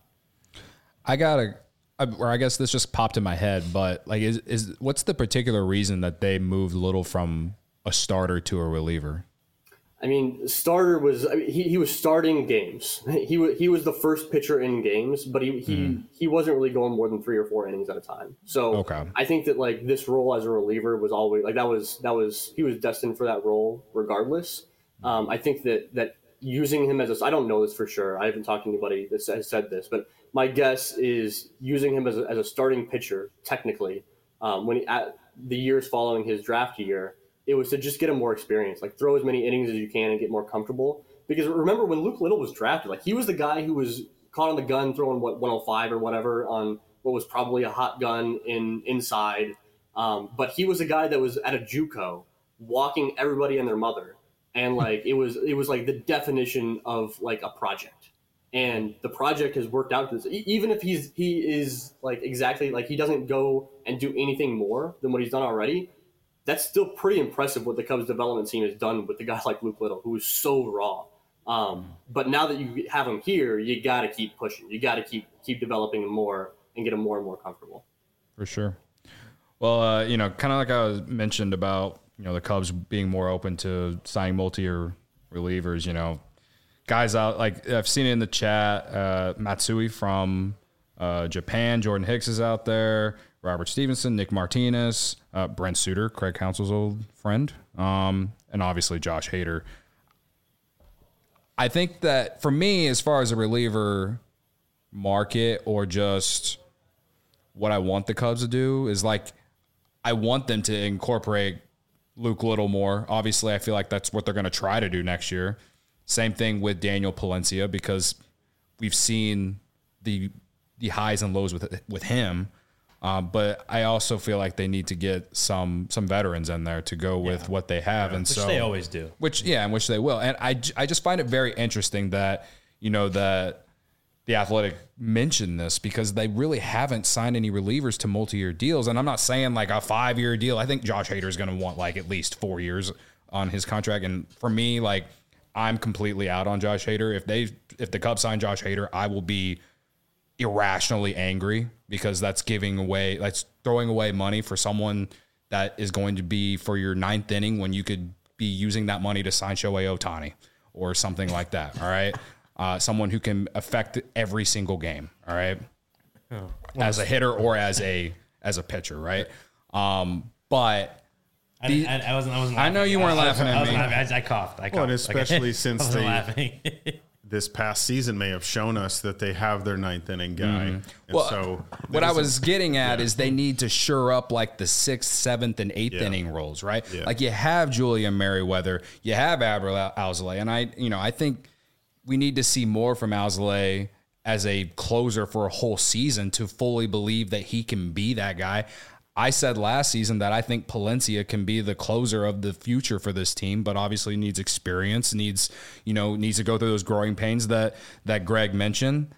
I gotta. Or I guess this just popped in my head, but like, is is what's the particular reason that they moved Little from a starter to a reliever? I mean, starter was I mean, he he was starting games. He was he was the first pitcher in games, but he he mm. he wasn't really going more than three or four innings at a time. So okay. I think that like this role as a reliever was always like that was that was he was destined for that role regardless. Um, I think that that using him as a I don't know this for sure. I haven't talked to anybody that has said this, but my guess is using him as a, as a starting pitcher, technically, um, when he, at the years following his draft year, it was to just get him more experience, like throw as many innings as you can and get more comfortable. Because remember when Luke Little was drafted, like he was the guy who was caught on the gun throwing what one oh five or whatever on what was probably a hot gun in inside. Um, but he was a guy that was at a JUCO walking everybody and their mother. And like, it was, it was like the definition of like a project. And the project has worked out. This, even if he's he is like exactly like he doesn't go and do anything more than what he's done already, that's still pretty impressive what the Cubs development team has done with the guy like Luke Little, who is so raw. Um, but now that you have him here, you got to keep pushing. You got to keep keep developing him more and get him more and more comfortable. For sure. Well, uh, you know, kind of like I was mentioned about you know the Cubs being more open to signing multi-year relievers. You know. guys out, like I've seen it in the chat, uh, Matsui from uh, Japan, Jordan Hicks is out there, Robert Stevenson, Nick Martinez, uh, Brent Suter, Craig Counsell's old friend, um, and obviously Josh Hader. I think that for me, as far as a reliever market or just what I want the Cubs to do is like, I want them to incorporate Luke Little more. Obviously, I feel like that's what they're going to try to do next year. Same thing with Daniel Palencia, because we've seen the the highs and lows with with him. Uh, but I also feel like they need to get some some veterans in there to go with yeah. what they have, yeah, and which so they always do. Which yeah, and which they will. And I, I just find it very interesting that you know that the Athletic mentioned this because they really haven't signed any relievers to multi-year deals. And I'm not saying like a five-year deal. I think Josh Hader is going to want like at least four years on his contract. And for me, like I'm completely out on Josh Hader. If they if the Cubs sign Josh Hader, I will be irrationally angry because that's giving away, that's throwing away money for someone that is going to be for your ninth inning when you could be using that money to sign Shohei Ohtani or something like that. All right. Uh, someone who can affect every single game. All right. Oh, as a hitter or as a, as a pitcher. Right. Um, but I, the, I, I wasn't, I wasn't, I know you weren't I, laughing I, at I me. Laughing. I, I coughed. I coughed. Well, and especially okay. since they, laughing. this past season may have shown us that they have their ninth inning guy. Mm-hmm. And well, so what I was getting at yeah. is they need to shore up like the sixth, seventh, and eighth yeah. inning roles, right? Yeah. Like you have Julian Merriweather, you have Adbert Alzolay, and I, you know, I think we need to see more from Alzolay as a closer for a whole season to fully believe that he can be that guy. I said last season that I think Palencia can be the closer of the future for this team, but obviously needs experience, needs, you know, needs to go through those growing pains that, that Greg mentioned.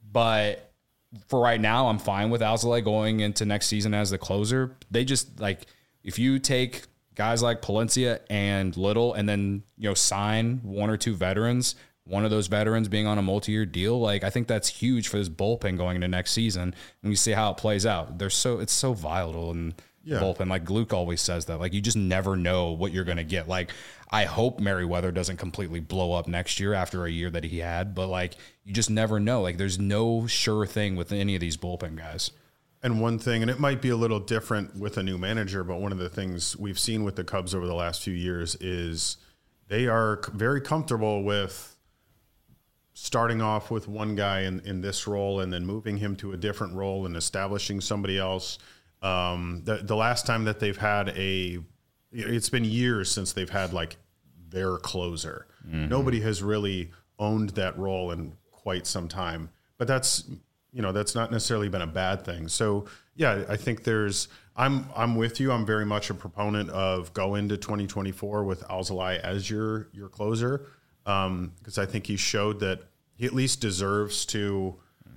But for right now, I'm fine with Alzolay going into next season as the closer. They just like, if you take guys like Palencia and Little and then, you know, sign one or two veterans, one of those veterans being on a multi-year deal, like I think that's huge for this bullpen going into next season. And we see how it plays out. They're so it's so volatile in yeah. the bullpen. Like Luke always says that. Like you just never know what you're going to get. Like I hope Merriweather doesn't completely blow up next year after a year that he had, but like you just never know. Like there's no sure thing with any of these bullpen guys. And one thing, and it might be a little different with a new manager, but one of the things we've seen with the Cubs over the last few years is they are very comfortable with starting off with one guy in, in this role and then moving him to a different role and establishing somebody else. Um, the, the last time that they've had a, it's been years since they've had like their closer. Mm-hmm. Nobody has really owned that role in quite some time, but that's, you know, that's not necessarily been a bad thing. So yeah, I think there's, I'm, I'm with you. I'm very much a proponent of go into twenty twenty-four with Alzolay as your, your closer. Um, because I think he showed that he at least deserves to,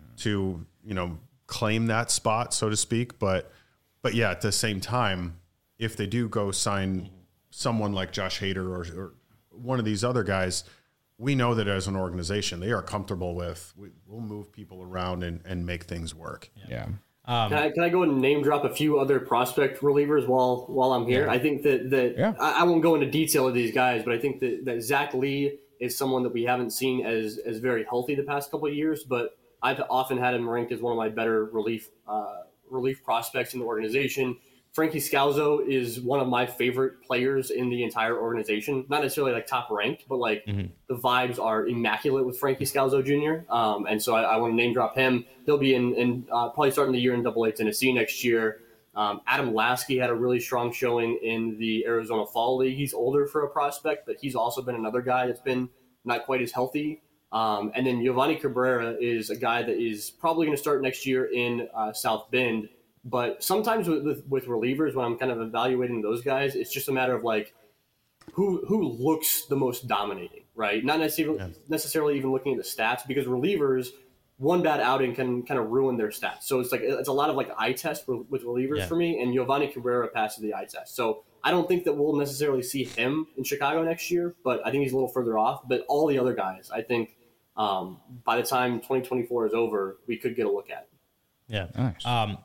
to, you know, claim that spot, so to speak. But, but yeah, at the same time, if they do go sign someone like Josh Hader or, or one of these other guys, we know that as an organization, they are comfortable with, we, we'll move people around and, and make things work. Yeah. Um, can, I, can I go and name drop a few other prospect relievers while while I'm here? Yeah. I think that, that yeah. I, I won't go into detail of these guys, but I think that, that Zach Lee is someone that we haven't seen as as very healthy the past couple of years, but I've often had him ranked as one of my better relief uh, relief prospects in the organization. Frankie Scalzo is one of my favorite players in the entire organization. Not necessarily like top ranked, but like mm-hmm. the vibes are immaculate with Frankie Scalzo Junior Um, and so I, I want to name drop him. He'll be in, in uh, probably starting the year in Double A Tennessee next year. Um, Adam Lasky had a really strong showing in the Arizona Fall League. He's older for a prospect, but he's also been another guy that's been not quite as healthy. Um, and then Giovanni Cabrera is a guy that is probably going to start next year in uh, South Bend. But sometimes with, with, with relievers, when I'm kind of evaluating those guys, it's just a matter of like who who looks the most dominating, right? Not necessarily yeah. necessarily even looking at the stats, because relievers, one bad outing can kind of ruin their stats. So it's like it's a lot of like eye test for, with relievers yeah. for me, and Giovanni Cabrera passes the eye test. So I don't think that we'll necessarily see him in Chicago next year, but I think he's a little further off. But all the other guys, I think um, by the time twenty twenty-four is over, we could get a look at. Yeah. Nice. Um,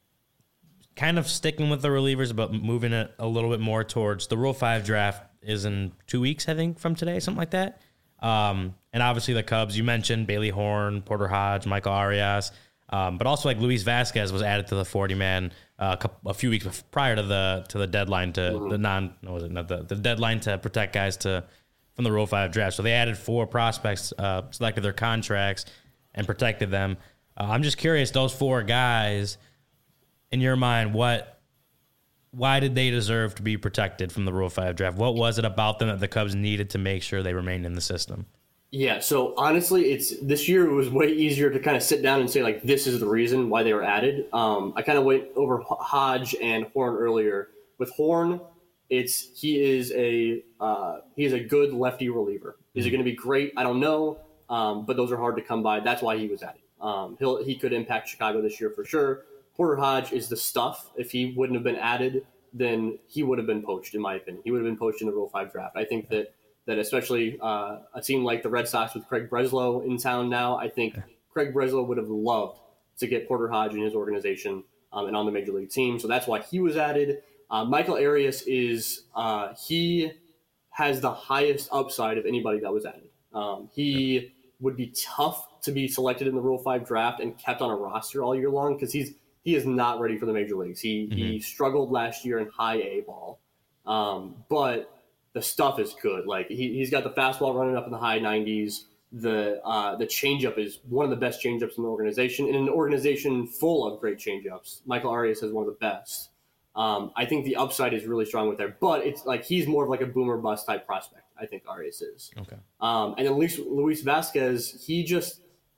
kind of sticking with the relievers, but moving it a little bit more towards the Rule five draft is in two weeks, I think, from today, something like that. Um, and obviously the Cubs, you mentioned Bailey Horn, Porter Hodge, Michael Arias, um, but also like Luis Vasquez was added to the forty man uh, a, couple, a few weeks prior to the to the deadline to mm-hmm. the non no was it not the, the deadline to protect guys to from the Rule Five draft. So they added four prospects, uh, selected their contracts, and protected them. Uh, I'm just curious, those four guys, in your mind, what, why did they deserve to be protected from the Rule Five draft? What was it about them that the Cubs needed to make sure they remained in the system? Yeah, so honestly, it's this year it was way easier to kind of sit down and say, like, this is the reason why they were added. Um, I kind of went over Hodge and Horn earlier. With Horn, it's he is a uh, he is a good lefty reliever. Is it going to be great? I don't know, um, but those are hard to come by. That's why he was added. Um, he'll he could impact Chicago this year for sure. Porter Hodge is the stuff. If he wouldn't have been added, then he would have been poached, in my opinion. He would have been poached in the Rule Five draft. I think that. that especially uh, a team like the Red Sox with Craig Breslow in town now, I think Craig Breslow would have loved to get Porter Hodge in his organization um, and on the Major League team. So that's why he was added. Uh, Michael Arias is uh, he has the highest upside of anybody that was added. Um, he yeah. would be tough to be selected in the Rule Five draft and kept on a roster all year long because he's he is not ready for the major leagues. He mm-hmm. he struggled last year in high A ball, um, but the stuff is good. Like he, he's got the fastball running up in the high nineties. The uh, the changeup is one of the best changeups in the organization. In an organization full of great changeups, Michael Arias has one of the best. Um, I think the upside is really strong with there, but it's like he's more of like a boomer bust type prospect. I think Arias is. Okay. Um, and then Luis, Luis Vasquez, he just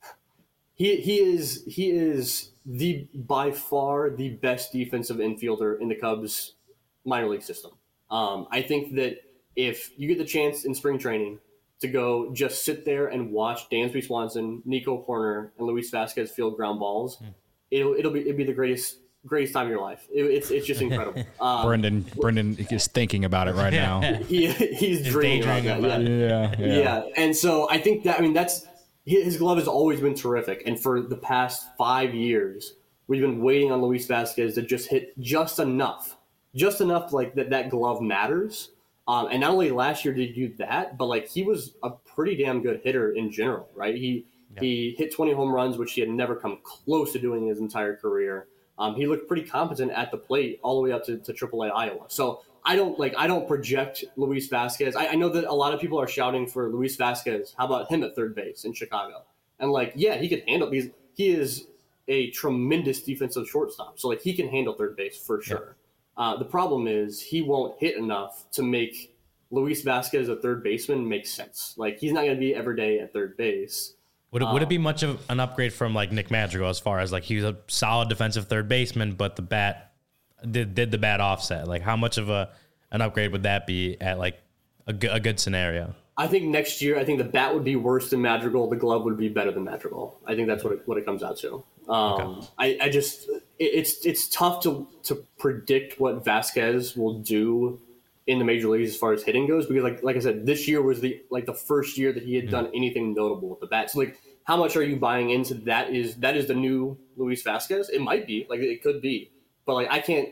he he is he is the by far the best defensive infielder in the Cubs minor league system. Um, I think that. If you get the chance in spring training to go just sit there and watch Dansby Swanson, Nico Hoerner, and Luis Vasquez field ground balls, mm. it'll it'll be it'll be the greatest greatest time of your life. It, it's it's just incredible. Um, Brendan Brendan is thinking about it right now. He he's dreaming about that. Yeah. Yeah, yeah, yeah. And so I think that I mean that's his glove has always been terrific, and for the past five years we've been waiting on Luis Vasquez to just hit just enough, just enough like that that glove matters. Um, and not only last year did he do that, but like he was a pretty damn good hitter in general, right? He yeah. he hit twenty home runs, which he had never come close to doing in his entire career. Um, he looked pretty competent at the plate all the way up to, to triple A Iowa. So I don't like I don't project Luis Vasquez. I, I know that a lot of people are shouting for Luis Vasquez. How about him at third base in Chicago? And like, yeah, he could handle these. He is a tremendous defensive shortstop, so like he can handle third base for sure. Yeah. Uh, the problem is he won't hit enough to make Luis Vasquez a third baseman make sense. Like he's not going to be every day at third base. Would it, um, would it be much of an upgrade from like Nick Madrigal as far as like he was a solid defensive third baseman, but the bat did did the bat offset? Like how much of a an upgrade would that be at like a, g- a good scenario? I think next year, I think the bat would be worse than Madrigal. The glove would be better than Madrigal. I think that's what it, what it comes out to. Um, okay. I, I just it, it's it's tough to to predict what Vasquez will do in the major leagues as far as hitting goes because like like I said, this year was the like the first year that he had mm-hmm. done anything notable with the bat. So like, how much are you buying into that? Is that is the new Luis Vasquez? It might be like it could be, but like I can't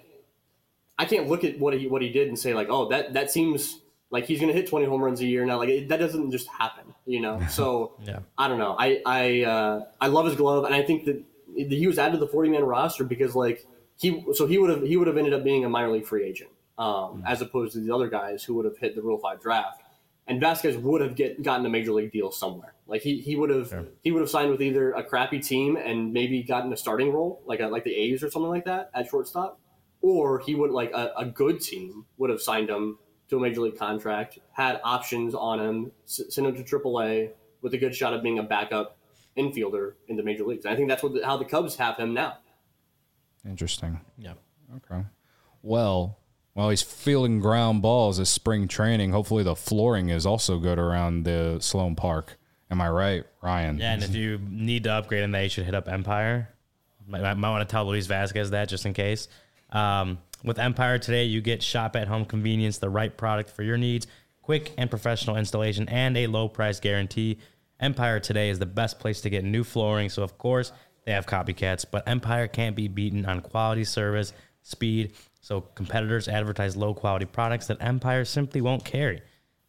I can't look at what he what he did and say like, oh that that seems. Like he's gonna hit twenty home runs a year now. Like it, that doesn't just happen, you know. So yeah. I don't know. I I uh, I love his glove, and I think that he was added to the forty man roster because like he so he would have he would have ended up being a minor league free agent um, mm-hmm. as opposed to the other guys who would have hit the Rule Five draft. And Vasquez would have get gotten a major league deal somewhere. Like he he would have sure. he would have signed with either a crappy team and maybe gotten a starting role like a, like the A's or something like that at shortstop, or he would like a, a good team would have signed him to a major league contract, had options on him, sent him to triple A with a good shot of being a backup infielder in the major leagues. And I think that's what the, how the Cubs have him now. Interesting. Yeah. Okay. Well, while he's fielding ground balls this spring training, hopefully the flooring is also good around the Sloan Park. Am I right, Ryan? Yeah, and if you need to upgrade in that, you should hit up Empire. Might, might want to tell Luis Vasquez that just in case. Um, With Empire today, you get shop-at-home convenience, the right product for your needs, quick and professional installation, and a low-price guarantee. Empire today is the best place to get new flooring, so of course they have copycats, but Empire can't be beaten on quality, service, speed, so competitors advertise low-quality products that Empire simply won't carry.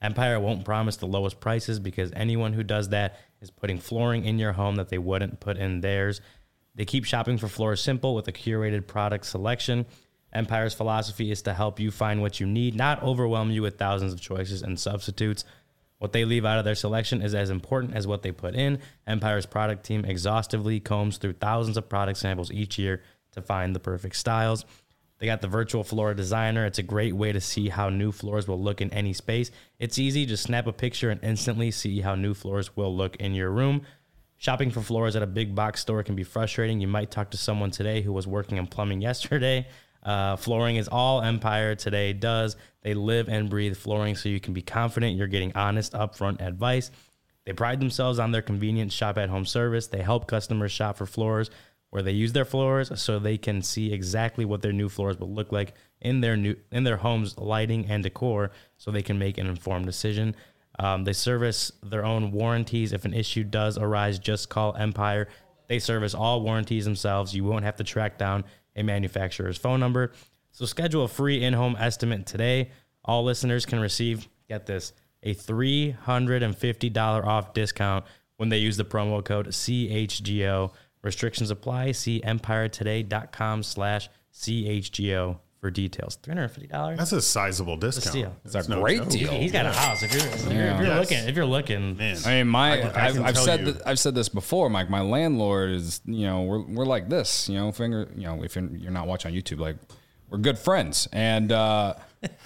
Empire won't promise the lowest prices because anyone who does that is putting flooring in your home that they wouldn't put in theirs. They keep shopping for floors simple with a curated product selection. Empire's philosophy is to help you find what you need, not overwhelm you with thousands of choices and substitutes. What they leave out of their selection is as important as what they put in. Empire's product team exhaustively combs through thousands of product samples each year to find the perfect styles. They got the virtual floor designer. It's a great way to see how new floors will look in any space. It's easy. Just snap a picture and instantly see how new floors will look in your room. Shopping for floors at a big box store can be frustrating. You might talk to someone today who was working in plumbing yesterday. Uh, flooring is all Empire today does. They live and breathe flooring, so you can be confident you're getting honest, upfront advice. They pride themselves on their convenient shop-at-home service. They help customers shop for floors where they use their floors so they can see exactly what their new floors will look like in their new in their home's lighting and decor so they can make an informed decision. Um, they service their own warranties. If an issue does arise, just call Empire. They service all warranties themselves. You won't have to track down a manufacturer's phone number. So schedule a free in-home estimate today. All listeners can receive, get this, a three hundred fifty dollars off discount when they use the promo code C H G O. Restrictions apply. See empiretoday.com slash CHGO for details. three hundred fifty dollars. That's a sizable discount. steal. It's a That's no great joke. deal. He's got a house. If you're, if you're, if you're Yes. looking, if you're looking, Man. I mean, my I- I I've, can I've tell said you. th- I've said this before, Mike. My landlord is, you know, we're we're like this, you know, finger, you know, if you're, you're not watching on YouTube, like we're good friends, and uh,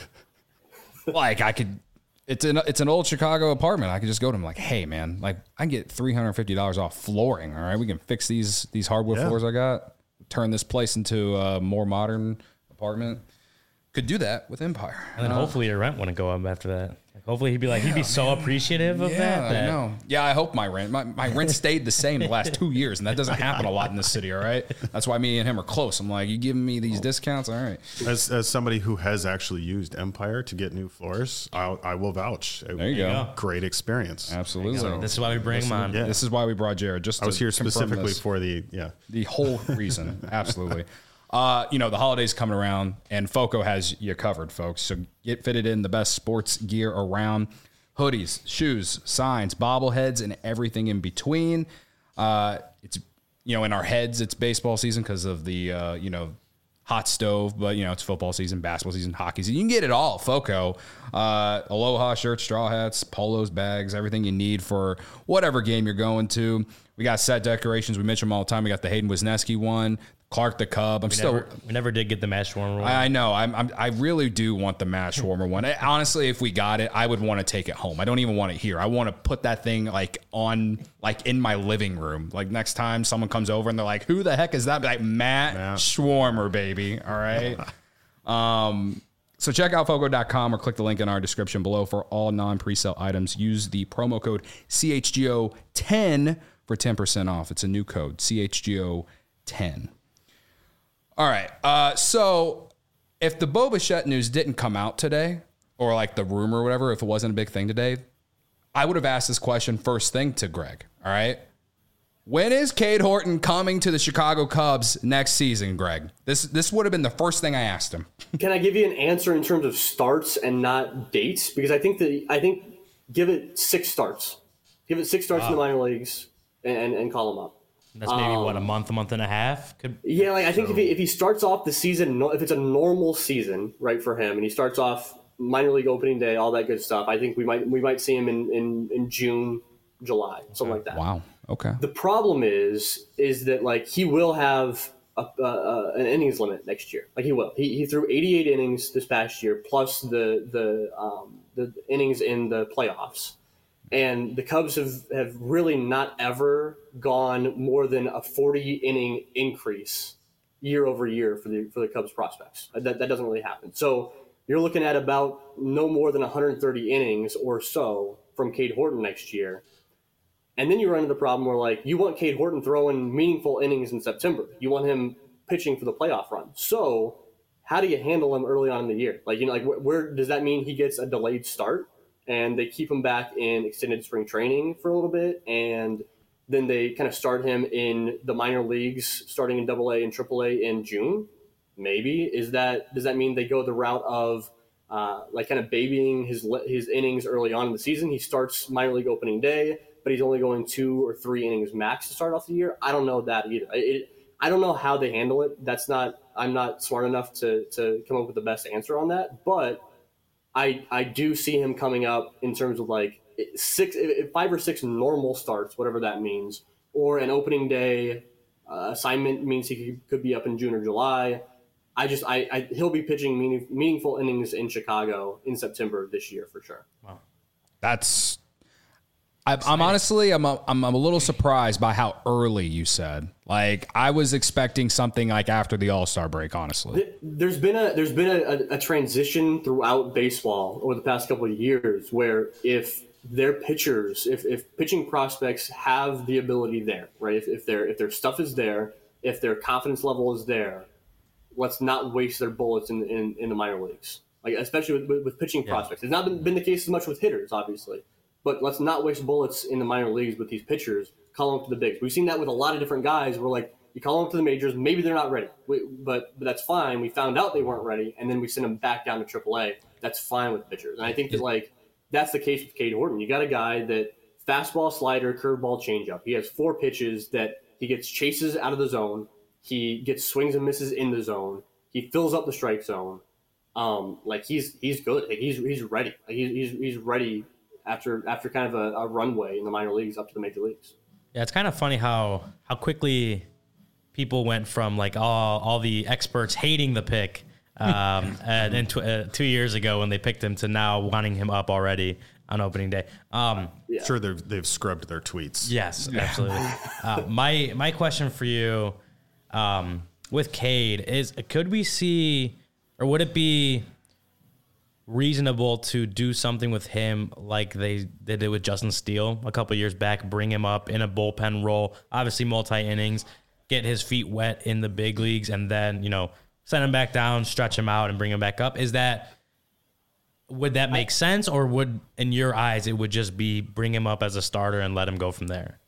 like I could, it's an it's an old Chicago apartment. I could just go to him like, hey man, like I can get three hundred fifty dollars off flooring. All right, we can fix these these hardwood Yeah. floors I got, turn this place into a more modern apartment. Could do that with Empire. and then hopefully your rent wouldn't go up after that. Like, hopefully he'd be like, he'd be so appreciative of Yeah, that. I that know. Yeah, I hope my rent. My, my rent stayed the same the last two years, and that doesn't happen a lot in this city. All right, that's why me and him are close. I'm like, you giving me these discounts? All right. As, as somebody who has actually used Empire to get new floors, I'll, I will vouch. It There you was go. a Great experience. Absolutely. So this is why we bring him on. Yeah. This is why we brought Jared. Just I was to here confirm specifically this. for the, yeah. the whole reason. Absolutely. Uh, you know, the holidays coming around, and Foco has you covered, folks. So get fitted in the best sports gear around. Hoodies, shoes, signs, bobbleheads, and everything in between. Uh, it's, you know, in our heads, it's baseball season because of the, uh, you know, hot stove, but, you know, it's football season, basketball season, hockey season. You can get it all, Foco. Uh, Aloha shirts, straw hats, polos, bags, everything you need for whatever game you're going to. We got set decorations. We mention them all the time. We got the Hayden Wisniewski one, Clark the Cub. I'm We still... never, we never did get the match warmer one. I I know. I'm, I'm. I really do want the mash warmer one. I, honestly, if we got it, I would want to take it home. I don't even want it here. I want to put that thing like on, like in my living room. Like next time someone comes over and they're like, "Who the heck is that?" Be like Matt, Matt. Schwarmer, baby. All right. um. So check out foco dot com or click the link in our description below for all non-presale items. Use the promo code C H G O ten for ten percent off. It's a new code, C H G O ten. All right. Uh, so if the Bo Bichette news didn't come out today, or like the rumor or whatever, if it wasn't a big thing today, I would have asked this question first thing to Greg. All right. When is Cade Horton coming to the Chicago Cubs next season, Greg? This this would have been the first thing I asked him. Can I give you an answer in terms of starts and not dates? Because I think that I think give it six starts, give it six starts in the minor leagues, and, and, and call him up. That's maybe what a month, a month and a half. Could Yeah, like I think if he if he starts off the season, no- if it's a normal season, right, for him, and he starts off minor league opening day, all that good stuff, I think we might we might see him in in, in June, July, something like that. Wow. Okay. The problem is is that like he will have a, uh, uh, an innings limit next year. Like he will. He, he threw eighty-eight innings this past year, plus the the um, the innings in the playoffs. And the Cubs have, have really not ever gone more than a forty inning increase year over year for the for the Cubs prospects. That that doesn't really happen. So you're looking at about no more than one hundred thirty innings or so from Cade Horton next year. And then you run into the problem where, like, you want Cade Horton throwing meaningful innings in September. You want him pitching for the playoff run. So how do you handle him early on in the year? Like, you know, like where, where does that mean he gets a delayed start and they keep him back in extended spring training for a little bit, and then they kind of start him in the minor leagues, starting in Double A and Triple A in June? Maybe is that does that mean they go the route of uh, like kind of babying his his innings early on in the season. He starts minor league opening day, but he's only going two or three innings max to start off the year. I don't know that either. It, I don't know how they handle it. That's not. I'm not smart enough to to come up with the best answer on that. But I I do see him coming up in terms of like six, five or six normal starts, whatever that means, or an opening day uh, assignment means he could, could be up in June or July. I just, I, I he'll be pitching meaning, meaningful innings in Chicago in September this year for sure. Wow, That's. I, I'm honestly, I'm a, I'm a little surprised by how early you said. Like I was expecting something like after the All-Star break. Honestly, there's been a there's been a, a transition throughout baseball over the past couple of years where if their pitchers, if, if pitching prospects have the ability there, right? If, if their if their stuff is there, if their confidence level is there. Let's not waste their bullets in, in, in the minor leagues, like especially with, with, with pitching yeah. prospects. It's not been, been the case as much with hitters, obviously, but let's not waste bullets in the minor leagues with these pitchers. Call them up to the bigs. We've seen that with a lot of different guys. Where like you call them up to the majors, maybe they're not ready, we, but but that's fine. We found out they weren't ready, and then we send them back down to triple A. That's fine with pitchers, and I think that like that's the case with Cade Horton. You got a guy that fastball, slider, curveball, changeup. He has four pitches that he gets chases out of the zone. He gets swings and misses in the zone. He fills up the strike zone. Um, like he's he's good. Like he's he's ready. Like he's he's he's ready after after kind of a, a runway in the minor leagues up to the major leagues. Yeah, it's kind of funny how how quickly people went from like all all the experts hating the pick um, and, and tw- uh, two years ago when they picked him to now wanting him up already on opening day. Um, yeah. Sure, they've they've scrubbed their tweets. Yes, absolutely. uh, my my question for you. Um, with Cade is, could we see, or would it be reasonable to do something with him like they, they did with Justin Steele a couple years back, bring him up in a bullpen role, obviously multi-innings, get his feet wet in the big leagues, and then, you know, send him back down, stretch him out, and bring him back up? Is that, would that make sense, or would, in your eyes, it would just be bring him up as a starter and let him go from there?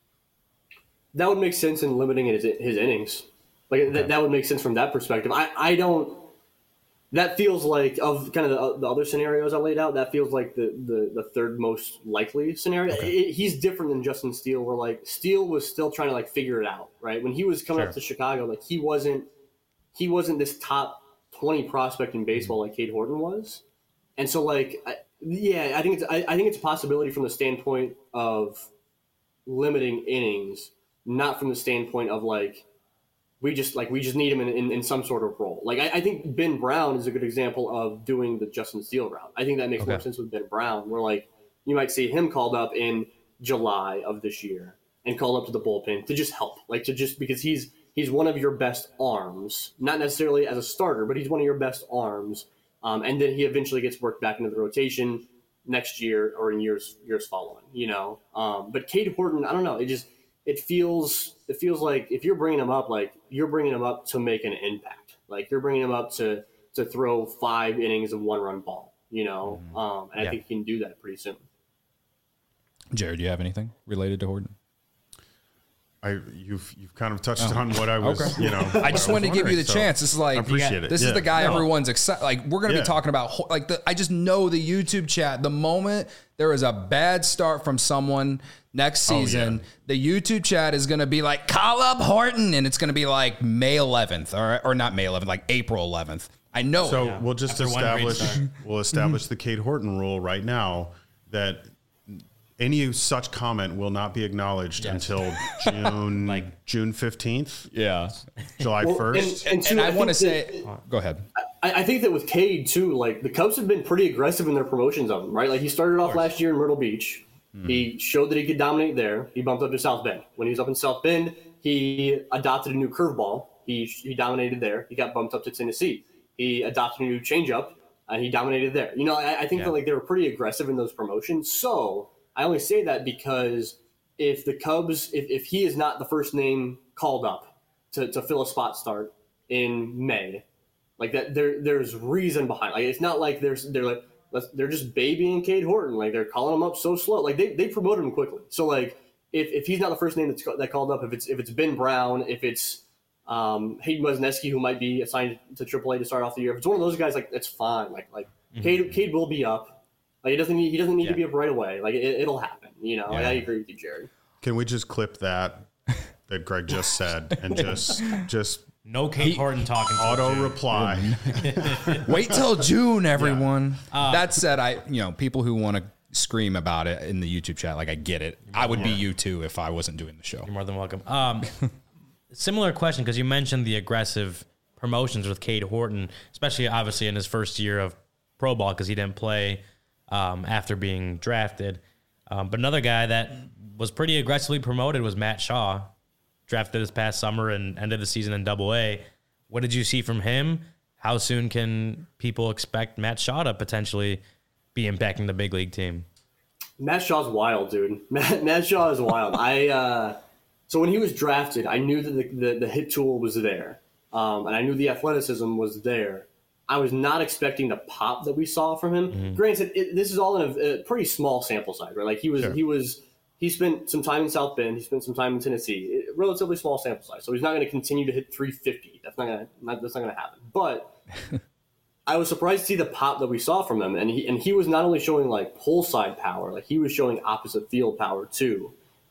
That would make sense in limiting his, his innings. Like okay. that, that would make sense from that perspective. I, I don't. That feels like of kind of the, the other scenarios I laid out. That feels like the the, the third most likely scenario. Okay. It, he's different than Justin Steele, where like Steele was still trying to like figure it out. Right when he was coming sure. up to Chicago, like he wasn't he wasn't this top twenty prospect in baseball like Cade Horton was, and so like I, yeah, I think it's I, I think it's a possibility from the standpoint of limiting innings. Not from the standpoint of like we just like we just need him in, in, in some sort of role. Like I, I think Ben Brown is a good example of doing the Justin Steele route. I think that makes okay. more sense with Ben Brown, where like you might see him called up in July of this year and called up to the bullpen to just help, like to just because he's he's one of your best arms, not necessarily as a starter, but he's one of your best arms. Um, and then he eventually gets worked back into the rotation next year or in years years following. You know, um, but Cade Horton, I don't know, it just. It feels it feels like if you're bringing him up, like you're bringing him up to make an impact. Like you're bringing him up to to throw five innings of one run ball, you know. Mm-hmm. Um, and yeah. I think he can do that pretty soon. Jared, do you have anything related to Horton? I you've you've kind of touched oh. on what I was, okay. you know. I just wanted to give you the so chance. This is like, I appreciate got, it. This yeah. is the guy no. everyone's excited. Like we're gonna yeah. be talking about. Like the, I just know the YouTube chat. The moment there is a bad start from someone next season, oh, yeah. the YouTube chat is gonna be like, call up Horton, and it's gonna be like May eleventh, or or not May eleventh, like April eleventh. I know. So it. we'll just After establish we'll establish the Cade Horton rule right now that. Any such comment will not be acknowledged yes. until June like June fifteenth. Yeah, July well, first. And, and, and, and I, I want to say, that, go ahead. I, I think that with Cade too, like the Cubs have been pretty aggressive in their promotions of him, right? Like he started off last year in Myrtle Beach. Mm-hmm. He showed that he could dominate there. He bumped up to South Bend. When he was up in South Bend, he adopted a new curveball. He he dominated there. He got bumped up to Tennessee. He adopted a new changeup, and he dominated there. You know, I, I think yeah. that like they were pretty aggressive in those promotions. So. I only say that because if the Cubs, if, if he is not the first name called up to, to fill a spot start in May, like that, there there's reason behind it. Like it's not like there's they're like they're just babying Cade Horton. Like they're calling him up so slow. Like they they promoted him quickly. So like if, if he's not the first name that's that called up, if it's if it's Ben Brown, if it's um, Hayden Wesneski who might be assigned to triple A to start off the year, if it's one of those guys, like that's fine. Like like Cade, Cade will be up. Like he doesn't need, he doesn't need Yeah. to be up right away. Like it, it'll happen. You know, like, I agree with you, Jared. Can we just clip that that Greg just said and just just No Kate Horton talking. auto reply? Wait till June, everyone. That said, I you know people who want to scream about it in the YouTube chat, like I get it. I would be you too if I wasn't doing the show. You're more than welcome. Um, similar question, because you mentioned the aggressive promotions with Cade Horton, especially obviously in his first year of pro ball because he didn't play um, after being drafted. Um, but another guy that was pretty aggressively promoted was Matt Shaw, drafted this past summer and ended the season in Double A. What did you see from him? How soon can people expect Matt Shaw to potentially be impacting the big league team? Matt Shaw's wild, dude. Matt, Matt Shaw is wild. I uh, so when he was drafted, I knew that the, the, the hit tool was there, um, and I knew the athleticism was there. I was not expecting the pop that we saw from him. Mm-hmm. Granted, it, this is all in a, a pretty small sample size, right? Like he was, sure. he was, he spent some time in South Bend. He spent some time in Tennessee. It, relatively small sample size, so he's not going to continue to hit three fifty. That's not going to that's not going to happen. But I was surprised to see the pop that we saw from him, and he and he was not only showing like pull side power, like he was showing opposite field power too.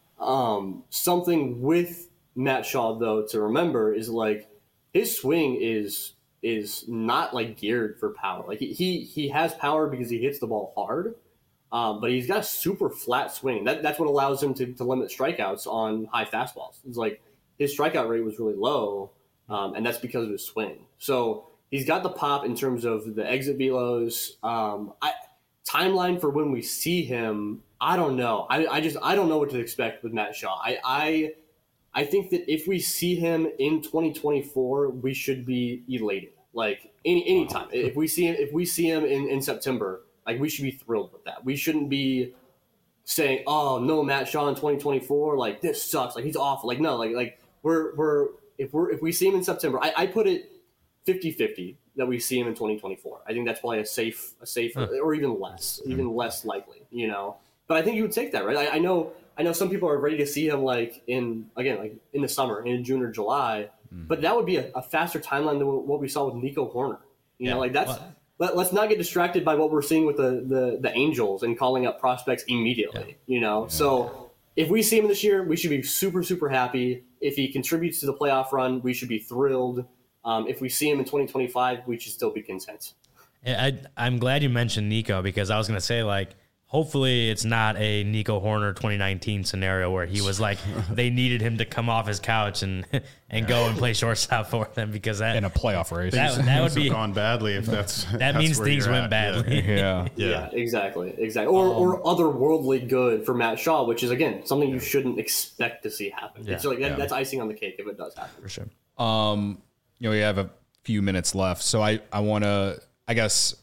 Um, something with Matt Shaw though to remember is like his swing is. is not like geared for power. Like he he, he has power because he hits the ball hard, um, but he's got a super flat swing. That that's what allows him to, to limit strikeouts on high fastballs. It's like his strikeout rate was really low, um, and that's because of his swing. So he's got the pop in terms of the exit velos. Um, I, timeline for when we see him, I don't know. I, I just I don't know what to expect with Matt Shaw. I. I I think that if we see him in twenty twenty-four, we should be elated. Like any anytime, if we see him, if we see him in, in September, like we should be thrilled with that. We shouldn't be saying, "Oh no, Matt Shaw in twenty twenty-four, like this sucks, like he's awful." Like no, like like we're we're if we're if we see him in September, I, I put it fifty-fifty that we see him in twenty twenty-four. I think that's probably a safe a safe huh. or even less, even less likely, you know. But I think you would take that, right? I, I know. I know some people are ready to see him like in again like in the summer, in June or July, mm. but that would be a, a faster timeline than what we saw with Nico Hoerner. You yeah. know, like that's well, let, let's not get distracted by what we're seeing with the the, the Angels and calling up prospects immediately. Yeah. You know, yeah. so if we see him this year, we should be super super happy. If he contributes to the playoff run, we should be thrilled. Um, if we see him in twenty twenty-five, we should still be content. I, I'm glad you mentioned Nico because I was going to say like. Hopefully it's not a Nico Hoerner twenty nineteen scenario where he was like they needed him to come off his couch and and go and play shortstop for them because that in a playoff race that, that would be gone badly if that's that that's means things went at. badly. Yeah. Yeah. yeah, yeah, exactly, exactly. Or um, or otherworldly good for Matt Shaw, which is again something you shouldn't expect to see happen. Yeah, it's like that, yeah. that's icing on the cake if it does happen for sure. Um, you know, we have a few minutes left, so I I want to I guess.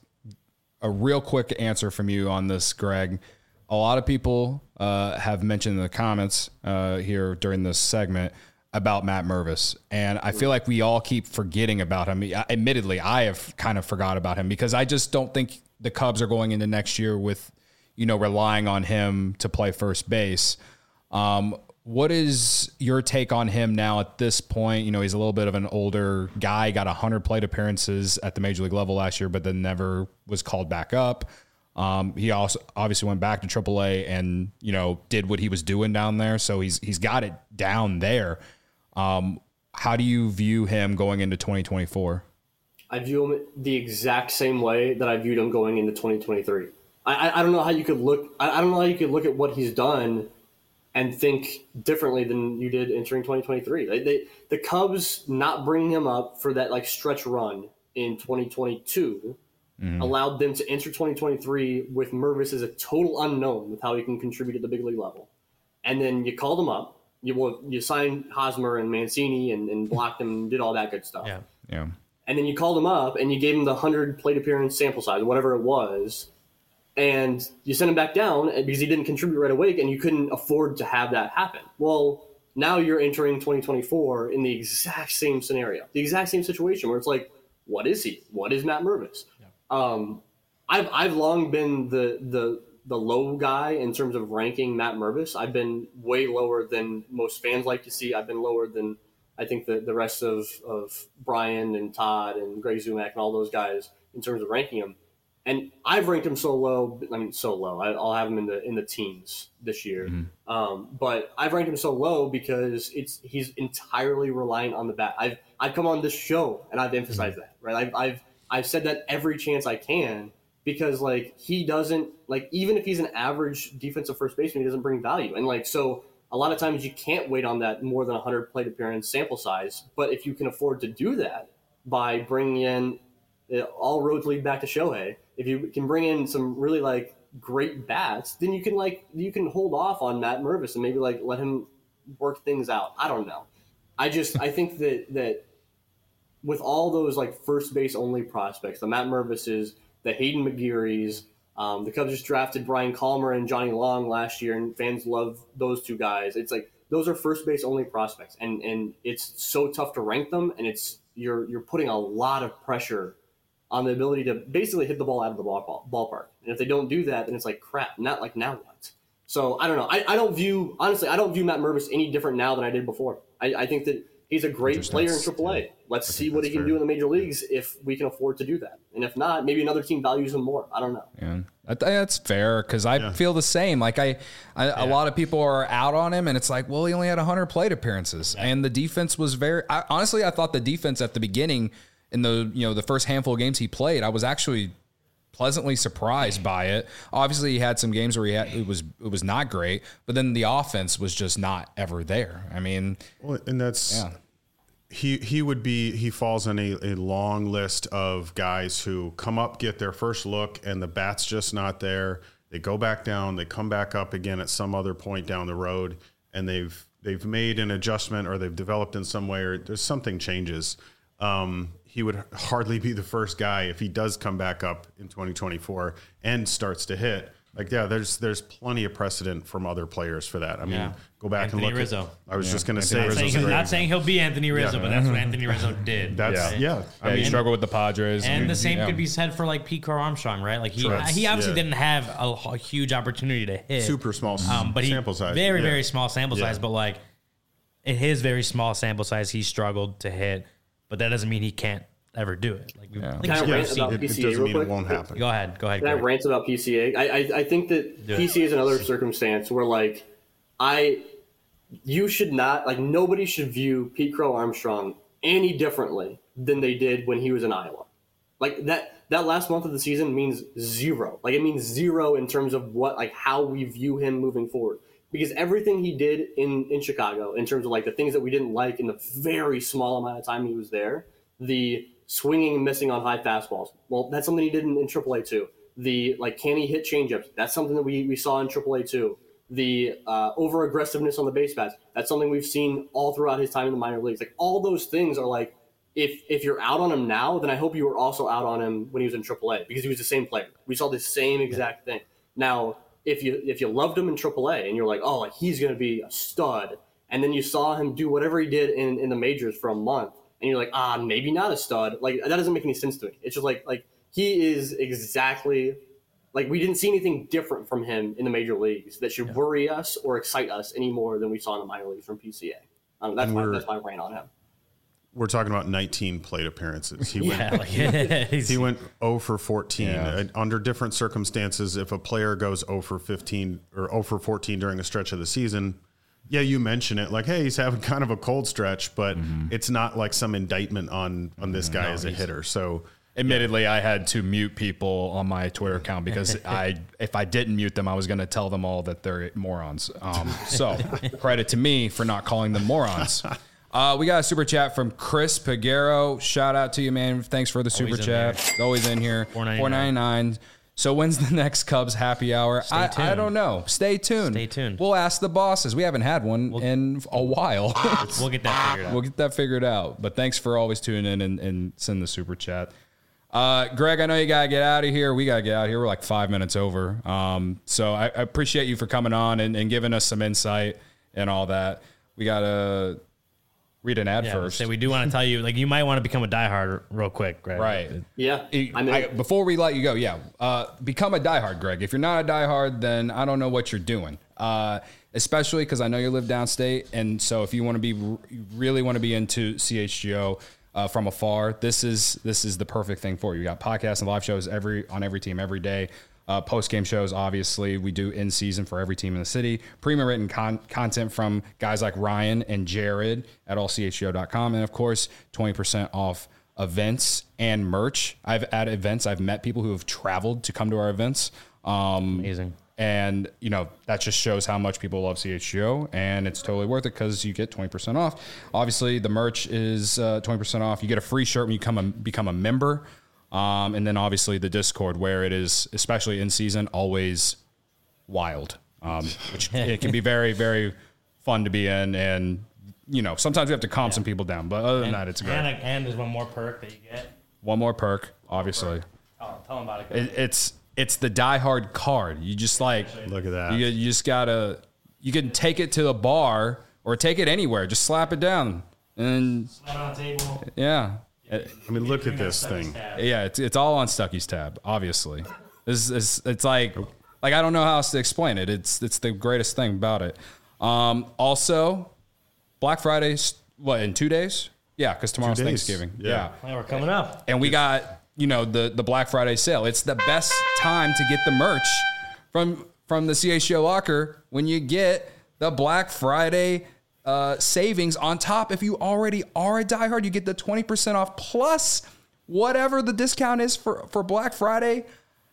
A real quick answer from you on this, Greg. A lot of people uh, have mentioned in the comments uh, here during this segment about Matt Mervis, and I feel like we all keep forgetting about him. Admittedly, I have kind of forgot about him because I just don't think the Cubs are going into next year with, you know, relying on him to play first base. Um, What is your take on him now at this point? You know, he's a little bit of an older guy, got one hundred plate appearances at the major league level last year, but then never was called back up. Um, he also obviously went back to triple A and, you know, did what he was doing down there. So he's he's got it down there. Um, how do you view him going into twenty twenty-four? I view him the exact same way that I viewed him going into twenty twenty-three. I, I, I don't know how you could look. I, I don't know how you could look at what he's done and think differently than you did entering twenty twenty-three. They, they, the Cubs not bringing him up for that like stretch run in twenty twenty-two mm-hmm. allowed them to enter twenty twenty-three with Mervis as a total unknown with how he can contribute at the big league level. And then you called him up. You well, you signed Hosmer and Mancini and, and blocked him and did all that good stuff. Yeah, yeah. And then you called him up and you gave him the one hundred plate appearance sample size, whatever it was. And you sent him back down because he didn't contribute right away, and you couldn't afford to have that happen. Well, now you're entering twenty twenty-four in the exact same scenario, the exact same situation where it's like, what is he? What is Matt Mervis? Yeah. Um, I've I've long been the the the low guy in terms of ranking Matt Mervis. I've been way lower than most fans like to see. I've been lower than I think the, the rest of, of Brian and Todd and Greg Zumack and all those guys in terms of ranking him. And I've ranked him so low. I mean, so low. I, I'll have him in the in the teens this year. Mm-hmm. Um, but I've ranked him so low because it's he's entirely reliant on the bat. I've I've come on this show and I've emphasized mm-hmm. that. Right. I've I've I've said that every chance I can because like he doesn't like even if he's an average defensive first baseman, he doesn't bring value. And like so, a lot of times you can't wait on that more than one hundred plate appearance sample size. But if you can afford to do that by bringing in all roads lead back to Shohei. If you can bring in some really like great bats, then you can like you can hold off on Matt Mervis and maybe like let him work things out. I don't know. I just I think that that with all those like first base only prospects, the Matt Mervises, the Hayden McGearys, um, the Cubs just drafted Brian Calmer and Johnny Long last year, and fans love those two guys. It's like those are first base only prospects, and and it's so tough to rank them, and it's you're you're putting a lot of pressure on the ability to basically hit the ball out of the ball, ballpark. And if they don't do that, then it's like, crap, not like now what? So I don't know. I, I don't view, honestly, I don't view Matt Mervis any different now than I did before. I, I think that he's a great player in triple A. Let's see what he can fair. do in the major leagues if we can afford to do that. And if not, maybe another team values him more. I don't know. Yeah, I think that's fair because I yeah. feel the same. Like I, I yeah. a lot of people are out on him, and it's like, well, he only had one hundred plate appearances, yeah. and the defense was very. I, honestly, I thought the defense at the beginning. In the you know the first handful of games he played, I was actually pleasantly surprised by it. Obviously, he had some games where he had it was it was not great, but then the offense was just not ever there. I mean, well, and that's yeah. he he would be he falls on a, a long list of guys who come up, get their first look, and the bat's just not there. They go back down, they come back up again at some other point down the road, and they've they've made an adjustment or they've developed in some way or there's something changes. Um, he would hardly be the first guy if he does come back up in twenty twenty-four and starts to hit. Like, yeah, there's there's plenty of precedent from other players for that. I mean, yeah. go back Anthony and look Rizzo. At, I was yeah. just going to say. Not saying, he'll, not saying he'll be Anthony Rizzo, yeah. but that's what Anthony Rizzo did. That's right? yeah. yeah. I mean, he struggled with the Padres, and, and the same yeah. could be said for like Pete Crow Armstrong, right? Like he Sure. he obviously yeah. didn't have a, a huge opportunity to hit, super small um, but he, sample size, very yeah. very small sample size. Yeah. But like in his very small sample size, he struggled to hit, but that doesn't mean he can't ever do it. Like, yeah. Can I rant about it, P C A it doesn't real mean quick? It won't happen. Go ahead. Go ahead. Can I rant about P C A? I, I, I think that do P C A it. is another circumstance where, like, I, you should not, like, nobody should view Pete Crow Armstrong any differently than they did when he was in Iowa. Like, that, that last month of the season means zero. Like, it means zero in terms of what, like, how we view him moving forward. Because everything he did in, in Chicago, in terms of, like, the things that we didn't like in the very small amount of time he was there, the swinging and missing on high fastballs. Well, that's something he did in, in triple A too. The, like, can he hit changeups? That's something that we, we saw in triple A too. The uh, over-aggressiveness on the base paths. That's something we've seen all throughout his time in the minor leagues. Like, all those things are like, if if you're out on him now, then I hope you were also out on him when he was in triple A because he was the same player. We saw the same exact thing. Now, if you if you loved him in triple A and you're like, oh, like, he's going to be a stud, and then you saw him do whatever he did in, in the majors for a month, and you're like, ah, maybe not a stud. Like, that doesn't make any sense to me. It's just like, like he is exactly, like, we didn't see anything different from him in the major leagues that should yeah. worry us or excite us any more than we saw in the minor leagues from P C A. Um, that's, my, that's my rant on him. We're talking about nineteen plate appearances. He yeah, went, like, he went zero for fourteen. Yeah. Under different circumstances, if a player goes zero for fifteen or zero for fourteen during a stretch of the season, yeah, you mention it like, hey, he's having kind of a cold stretch, but mm-hmm. it's not like some indictment on on this guy no, as a hitter. So, admittedly, yeah. I had to mute people on my Twitter account because I, if I didn't mute them, I was going to tell them all that they're morons. Um, so, credit to me for not calling them morons. Uh, we got a super chat from Chris Pagero. Shout out to you, man. Thanks for the super always chat. Always in here. four ninety-nine. So when's the next Cubs happy hour? Stay I, tuned. I don't know. Stay tuned. Stay tuned. We'll ask the bosses. We haven't had one we'll, in a while. We'll get that figured out. We'll get that figured out. But thanks for always tuning in and, and send the super chat. Uh, Greg, I know you got to get out of here. We got to get out of here. We're like five minutes over. Um, so I, I appreciate you for coming on and, and giving us some insight and all that. We got to read an ad yeah, first. So we do want to tell you, like, you might want to become a diehard real quick, Greg. Right. Yeah. I mean, I, before we let you go, yeah, uh, become a diehard, Greg. If you're not a diehard, then I don't know what you're doing. Uh, especially because I know you live downstate, and so if you want to be, you really want to be into C H G O, uh, from afar, this is this is the perfect thing for you. You got podcasts and live shows every on every team every day. Uh, post-game shows, obviously, we do in season for every team in the city. Premium written con- content from guys like Ryan and Jared at all c h g o dot com. And, of course, twenty percent off events and merch. I've at events, I've met people who have traveled to come to our events. Um, Amazing. And, you know, that just shows how much people love C H G O, and it's totally worth it because you get twenty percent off. Obviously, the merch is uh, twenty percent off. You get a free shirt when you come a, become a member. Um, and then obviously the Discord, where it is, especially in season, always wild, um, which it can be very, very fun to be in. And, you know, sometimes we have to calm yeah. some people down, but other than and, that, it's great. And, and there's one more perk that you get. One more perk, obviously. Oh, tell them about it. it it's it's the Die Hard card. You just like, look at that. You, you just gotta, you can take it to the bar or take it anywhere. Just slap it down and slap it on the table. Yeah. I mean, look at this thing. Yeah, it's it's all on Stucky's tab, obviously. This is it's like like I don't know how else to explain it. It's it's the greatest thing about it. Um, also, Black Friday's what in two days? Yeah, because tomorrow's Two days. Thanksgiving. Yeah. Yeah. Yeah, we're coming up. And we got you know the the Black Friday sale. It's the best time to get the merch from from the C H G O locker when you get the Black Friday Uh, savings on top. If you already are a diehard, you get the twenty percent off plus whatever the discount is for, for Black Friday.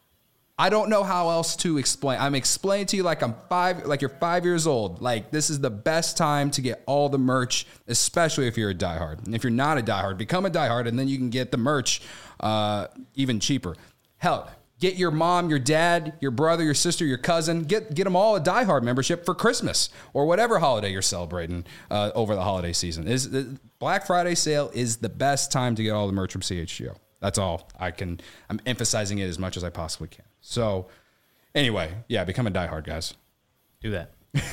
I don't know how else to explain. I'm explaining to you like I'm five, like you're five years old. Like this is the best time to get all the merch, especially if you're a diehard. And if you're not a diehard, become a diehard, and then you can get the merch uh, even cheaper. Hell, get your mom, your dad, your brother, your sister, your cousin. Get get them all a Die Hard membership for Christmas or whatever holiday you're celebrating uh, over the holiday season. Is the Black Friday sale is the best time to get all the merch from C H G O. That's all I can. I'm emphasizing it as much as I possibly can. So, anyway, yeah, become a Die Hard, guys. Do that.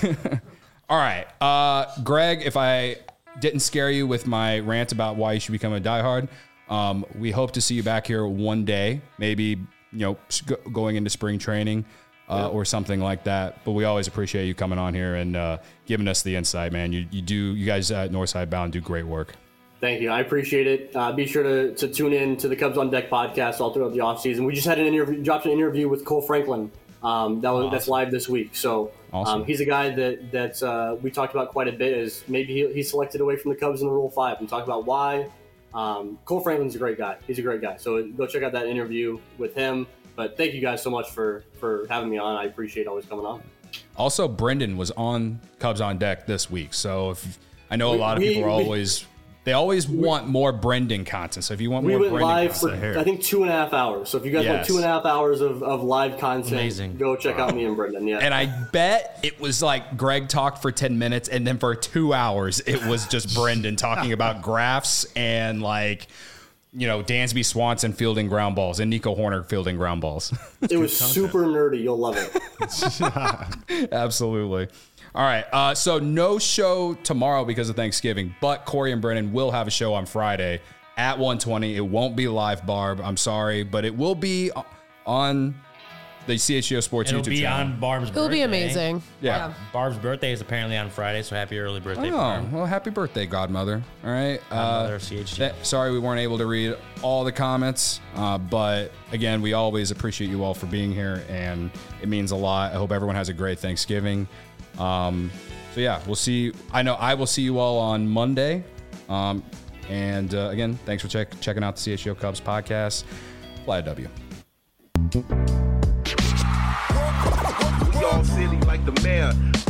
All right, uh, Greg. If I didn't scare you with my rant about why you should become a Die Hard, um, we hope to see you back here one day, maybe. You know, going into spring training uh, yeah. or something like that. But we always appreciate you coming on here and uh, giving us the insight, man. You you do you guys at Northside Bound do great work. Thank you. I appreciate it. Uh, be sure to, to tune in to the Cubs on Deck podcast all throughout the offseason. We just had an interview, dropped an interview with Cole Franklin. Um, that was awesome. That's live this week. So awesome. um, he's a guy that that uh, we talked about quite a bit. Is maybe he, he's selected away from the Cubs in the Rule Five. And talk about why. Um, Cole Franklin's a great guy. He's a great guy. So go check out that interview with him. But thank you guys so much for, for having me on. I appreciate always coming on. Also, Brendan was on Cubs on Deck this week. So if I know a we, lot of we, people are we, always they always we, want more Brendan content. So if you want we more went Brendan live content, for I think two and a half hours. So if you guys yes. want two and a half hours of, of live content, Amazing. Go check out me and Brendan. Yeah. And I bet it was like Greg talked for ten minutes, and then for two hours it was just Brendan talking about graphs and like. You know, Dansby Swanson fielding ground balls and Nico Horner fielding ground balls. It was super nerdy. You'll love it. Absolutely. All right. Uh, so no show tomorrow because of Thanksgiving, but Corey and Brennan will have a show on Friday at one twenty. It won't be live, Barb. I'm sorry, but it will be on the C H G O Sports It'll YouTube be channel. on Barb's birthday. It'll be amazing. Yeah. yeah. Barb's birthday is apparently on Friday, so happy early birthday, Oh, Barb. well, happy birthday, Godmother. All right. Godmother uh, C H G. Th- sorry we weren't able to read all the comments, uh, but again, we always appreciate you all for being here, and it means a lot. I hope everyone has a great Thanksgiving. Um, so, yeah, we'll see. I know I will see you all on Monday. Um, and, uh, again, thanks for check- checking out the C H G O Cubs podcast. Fly a W. Y'all silly like the mayor.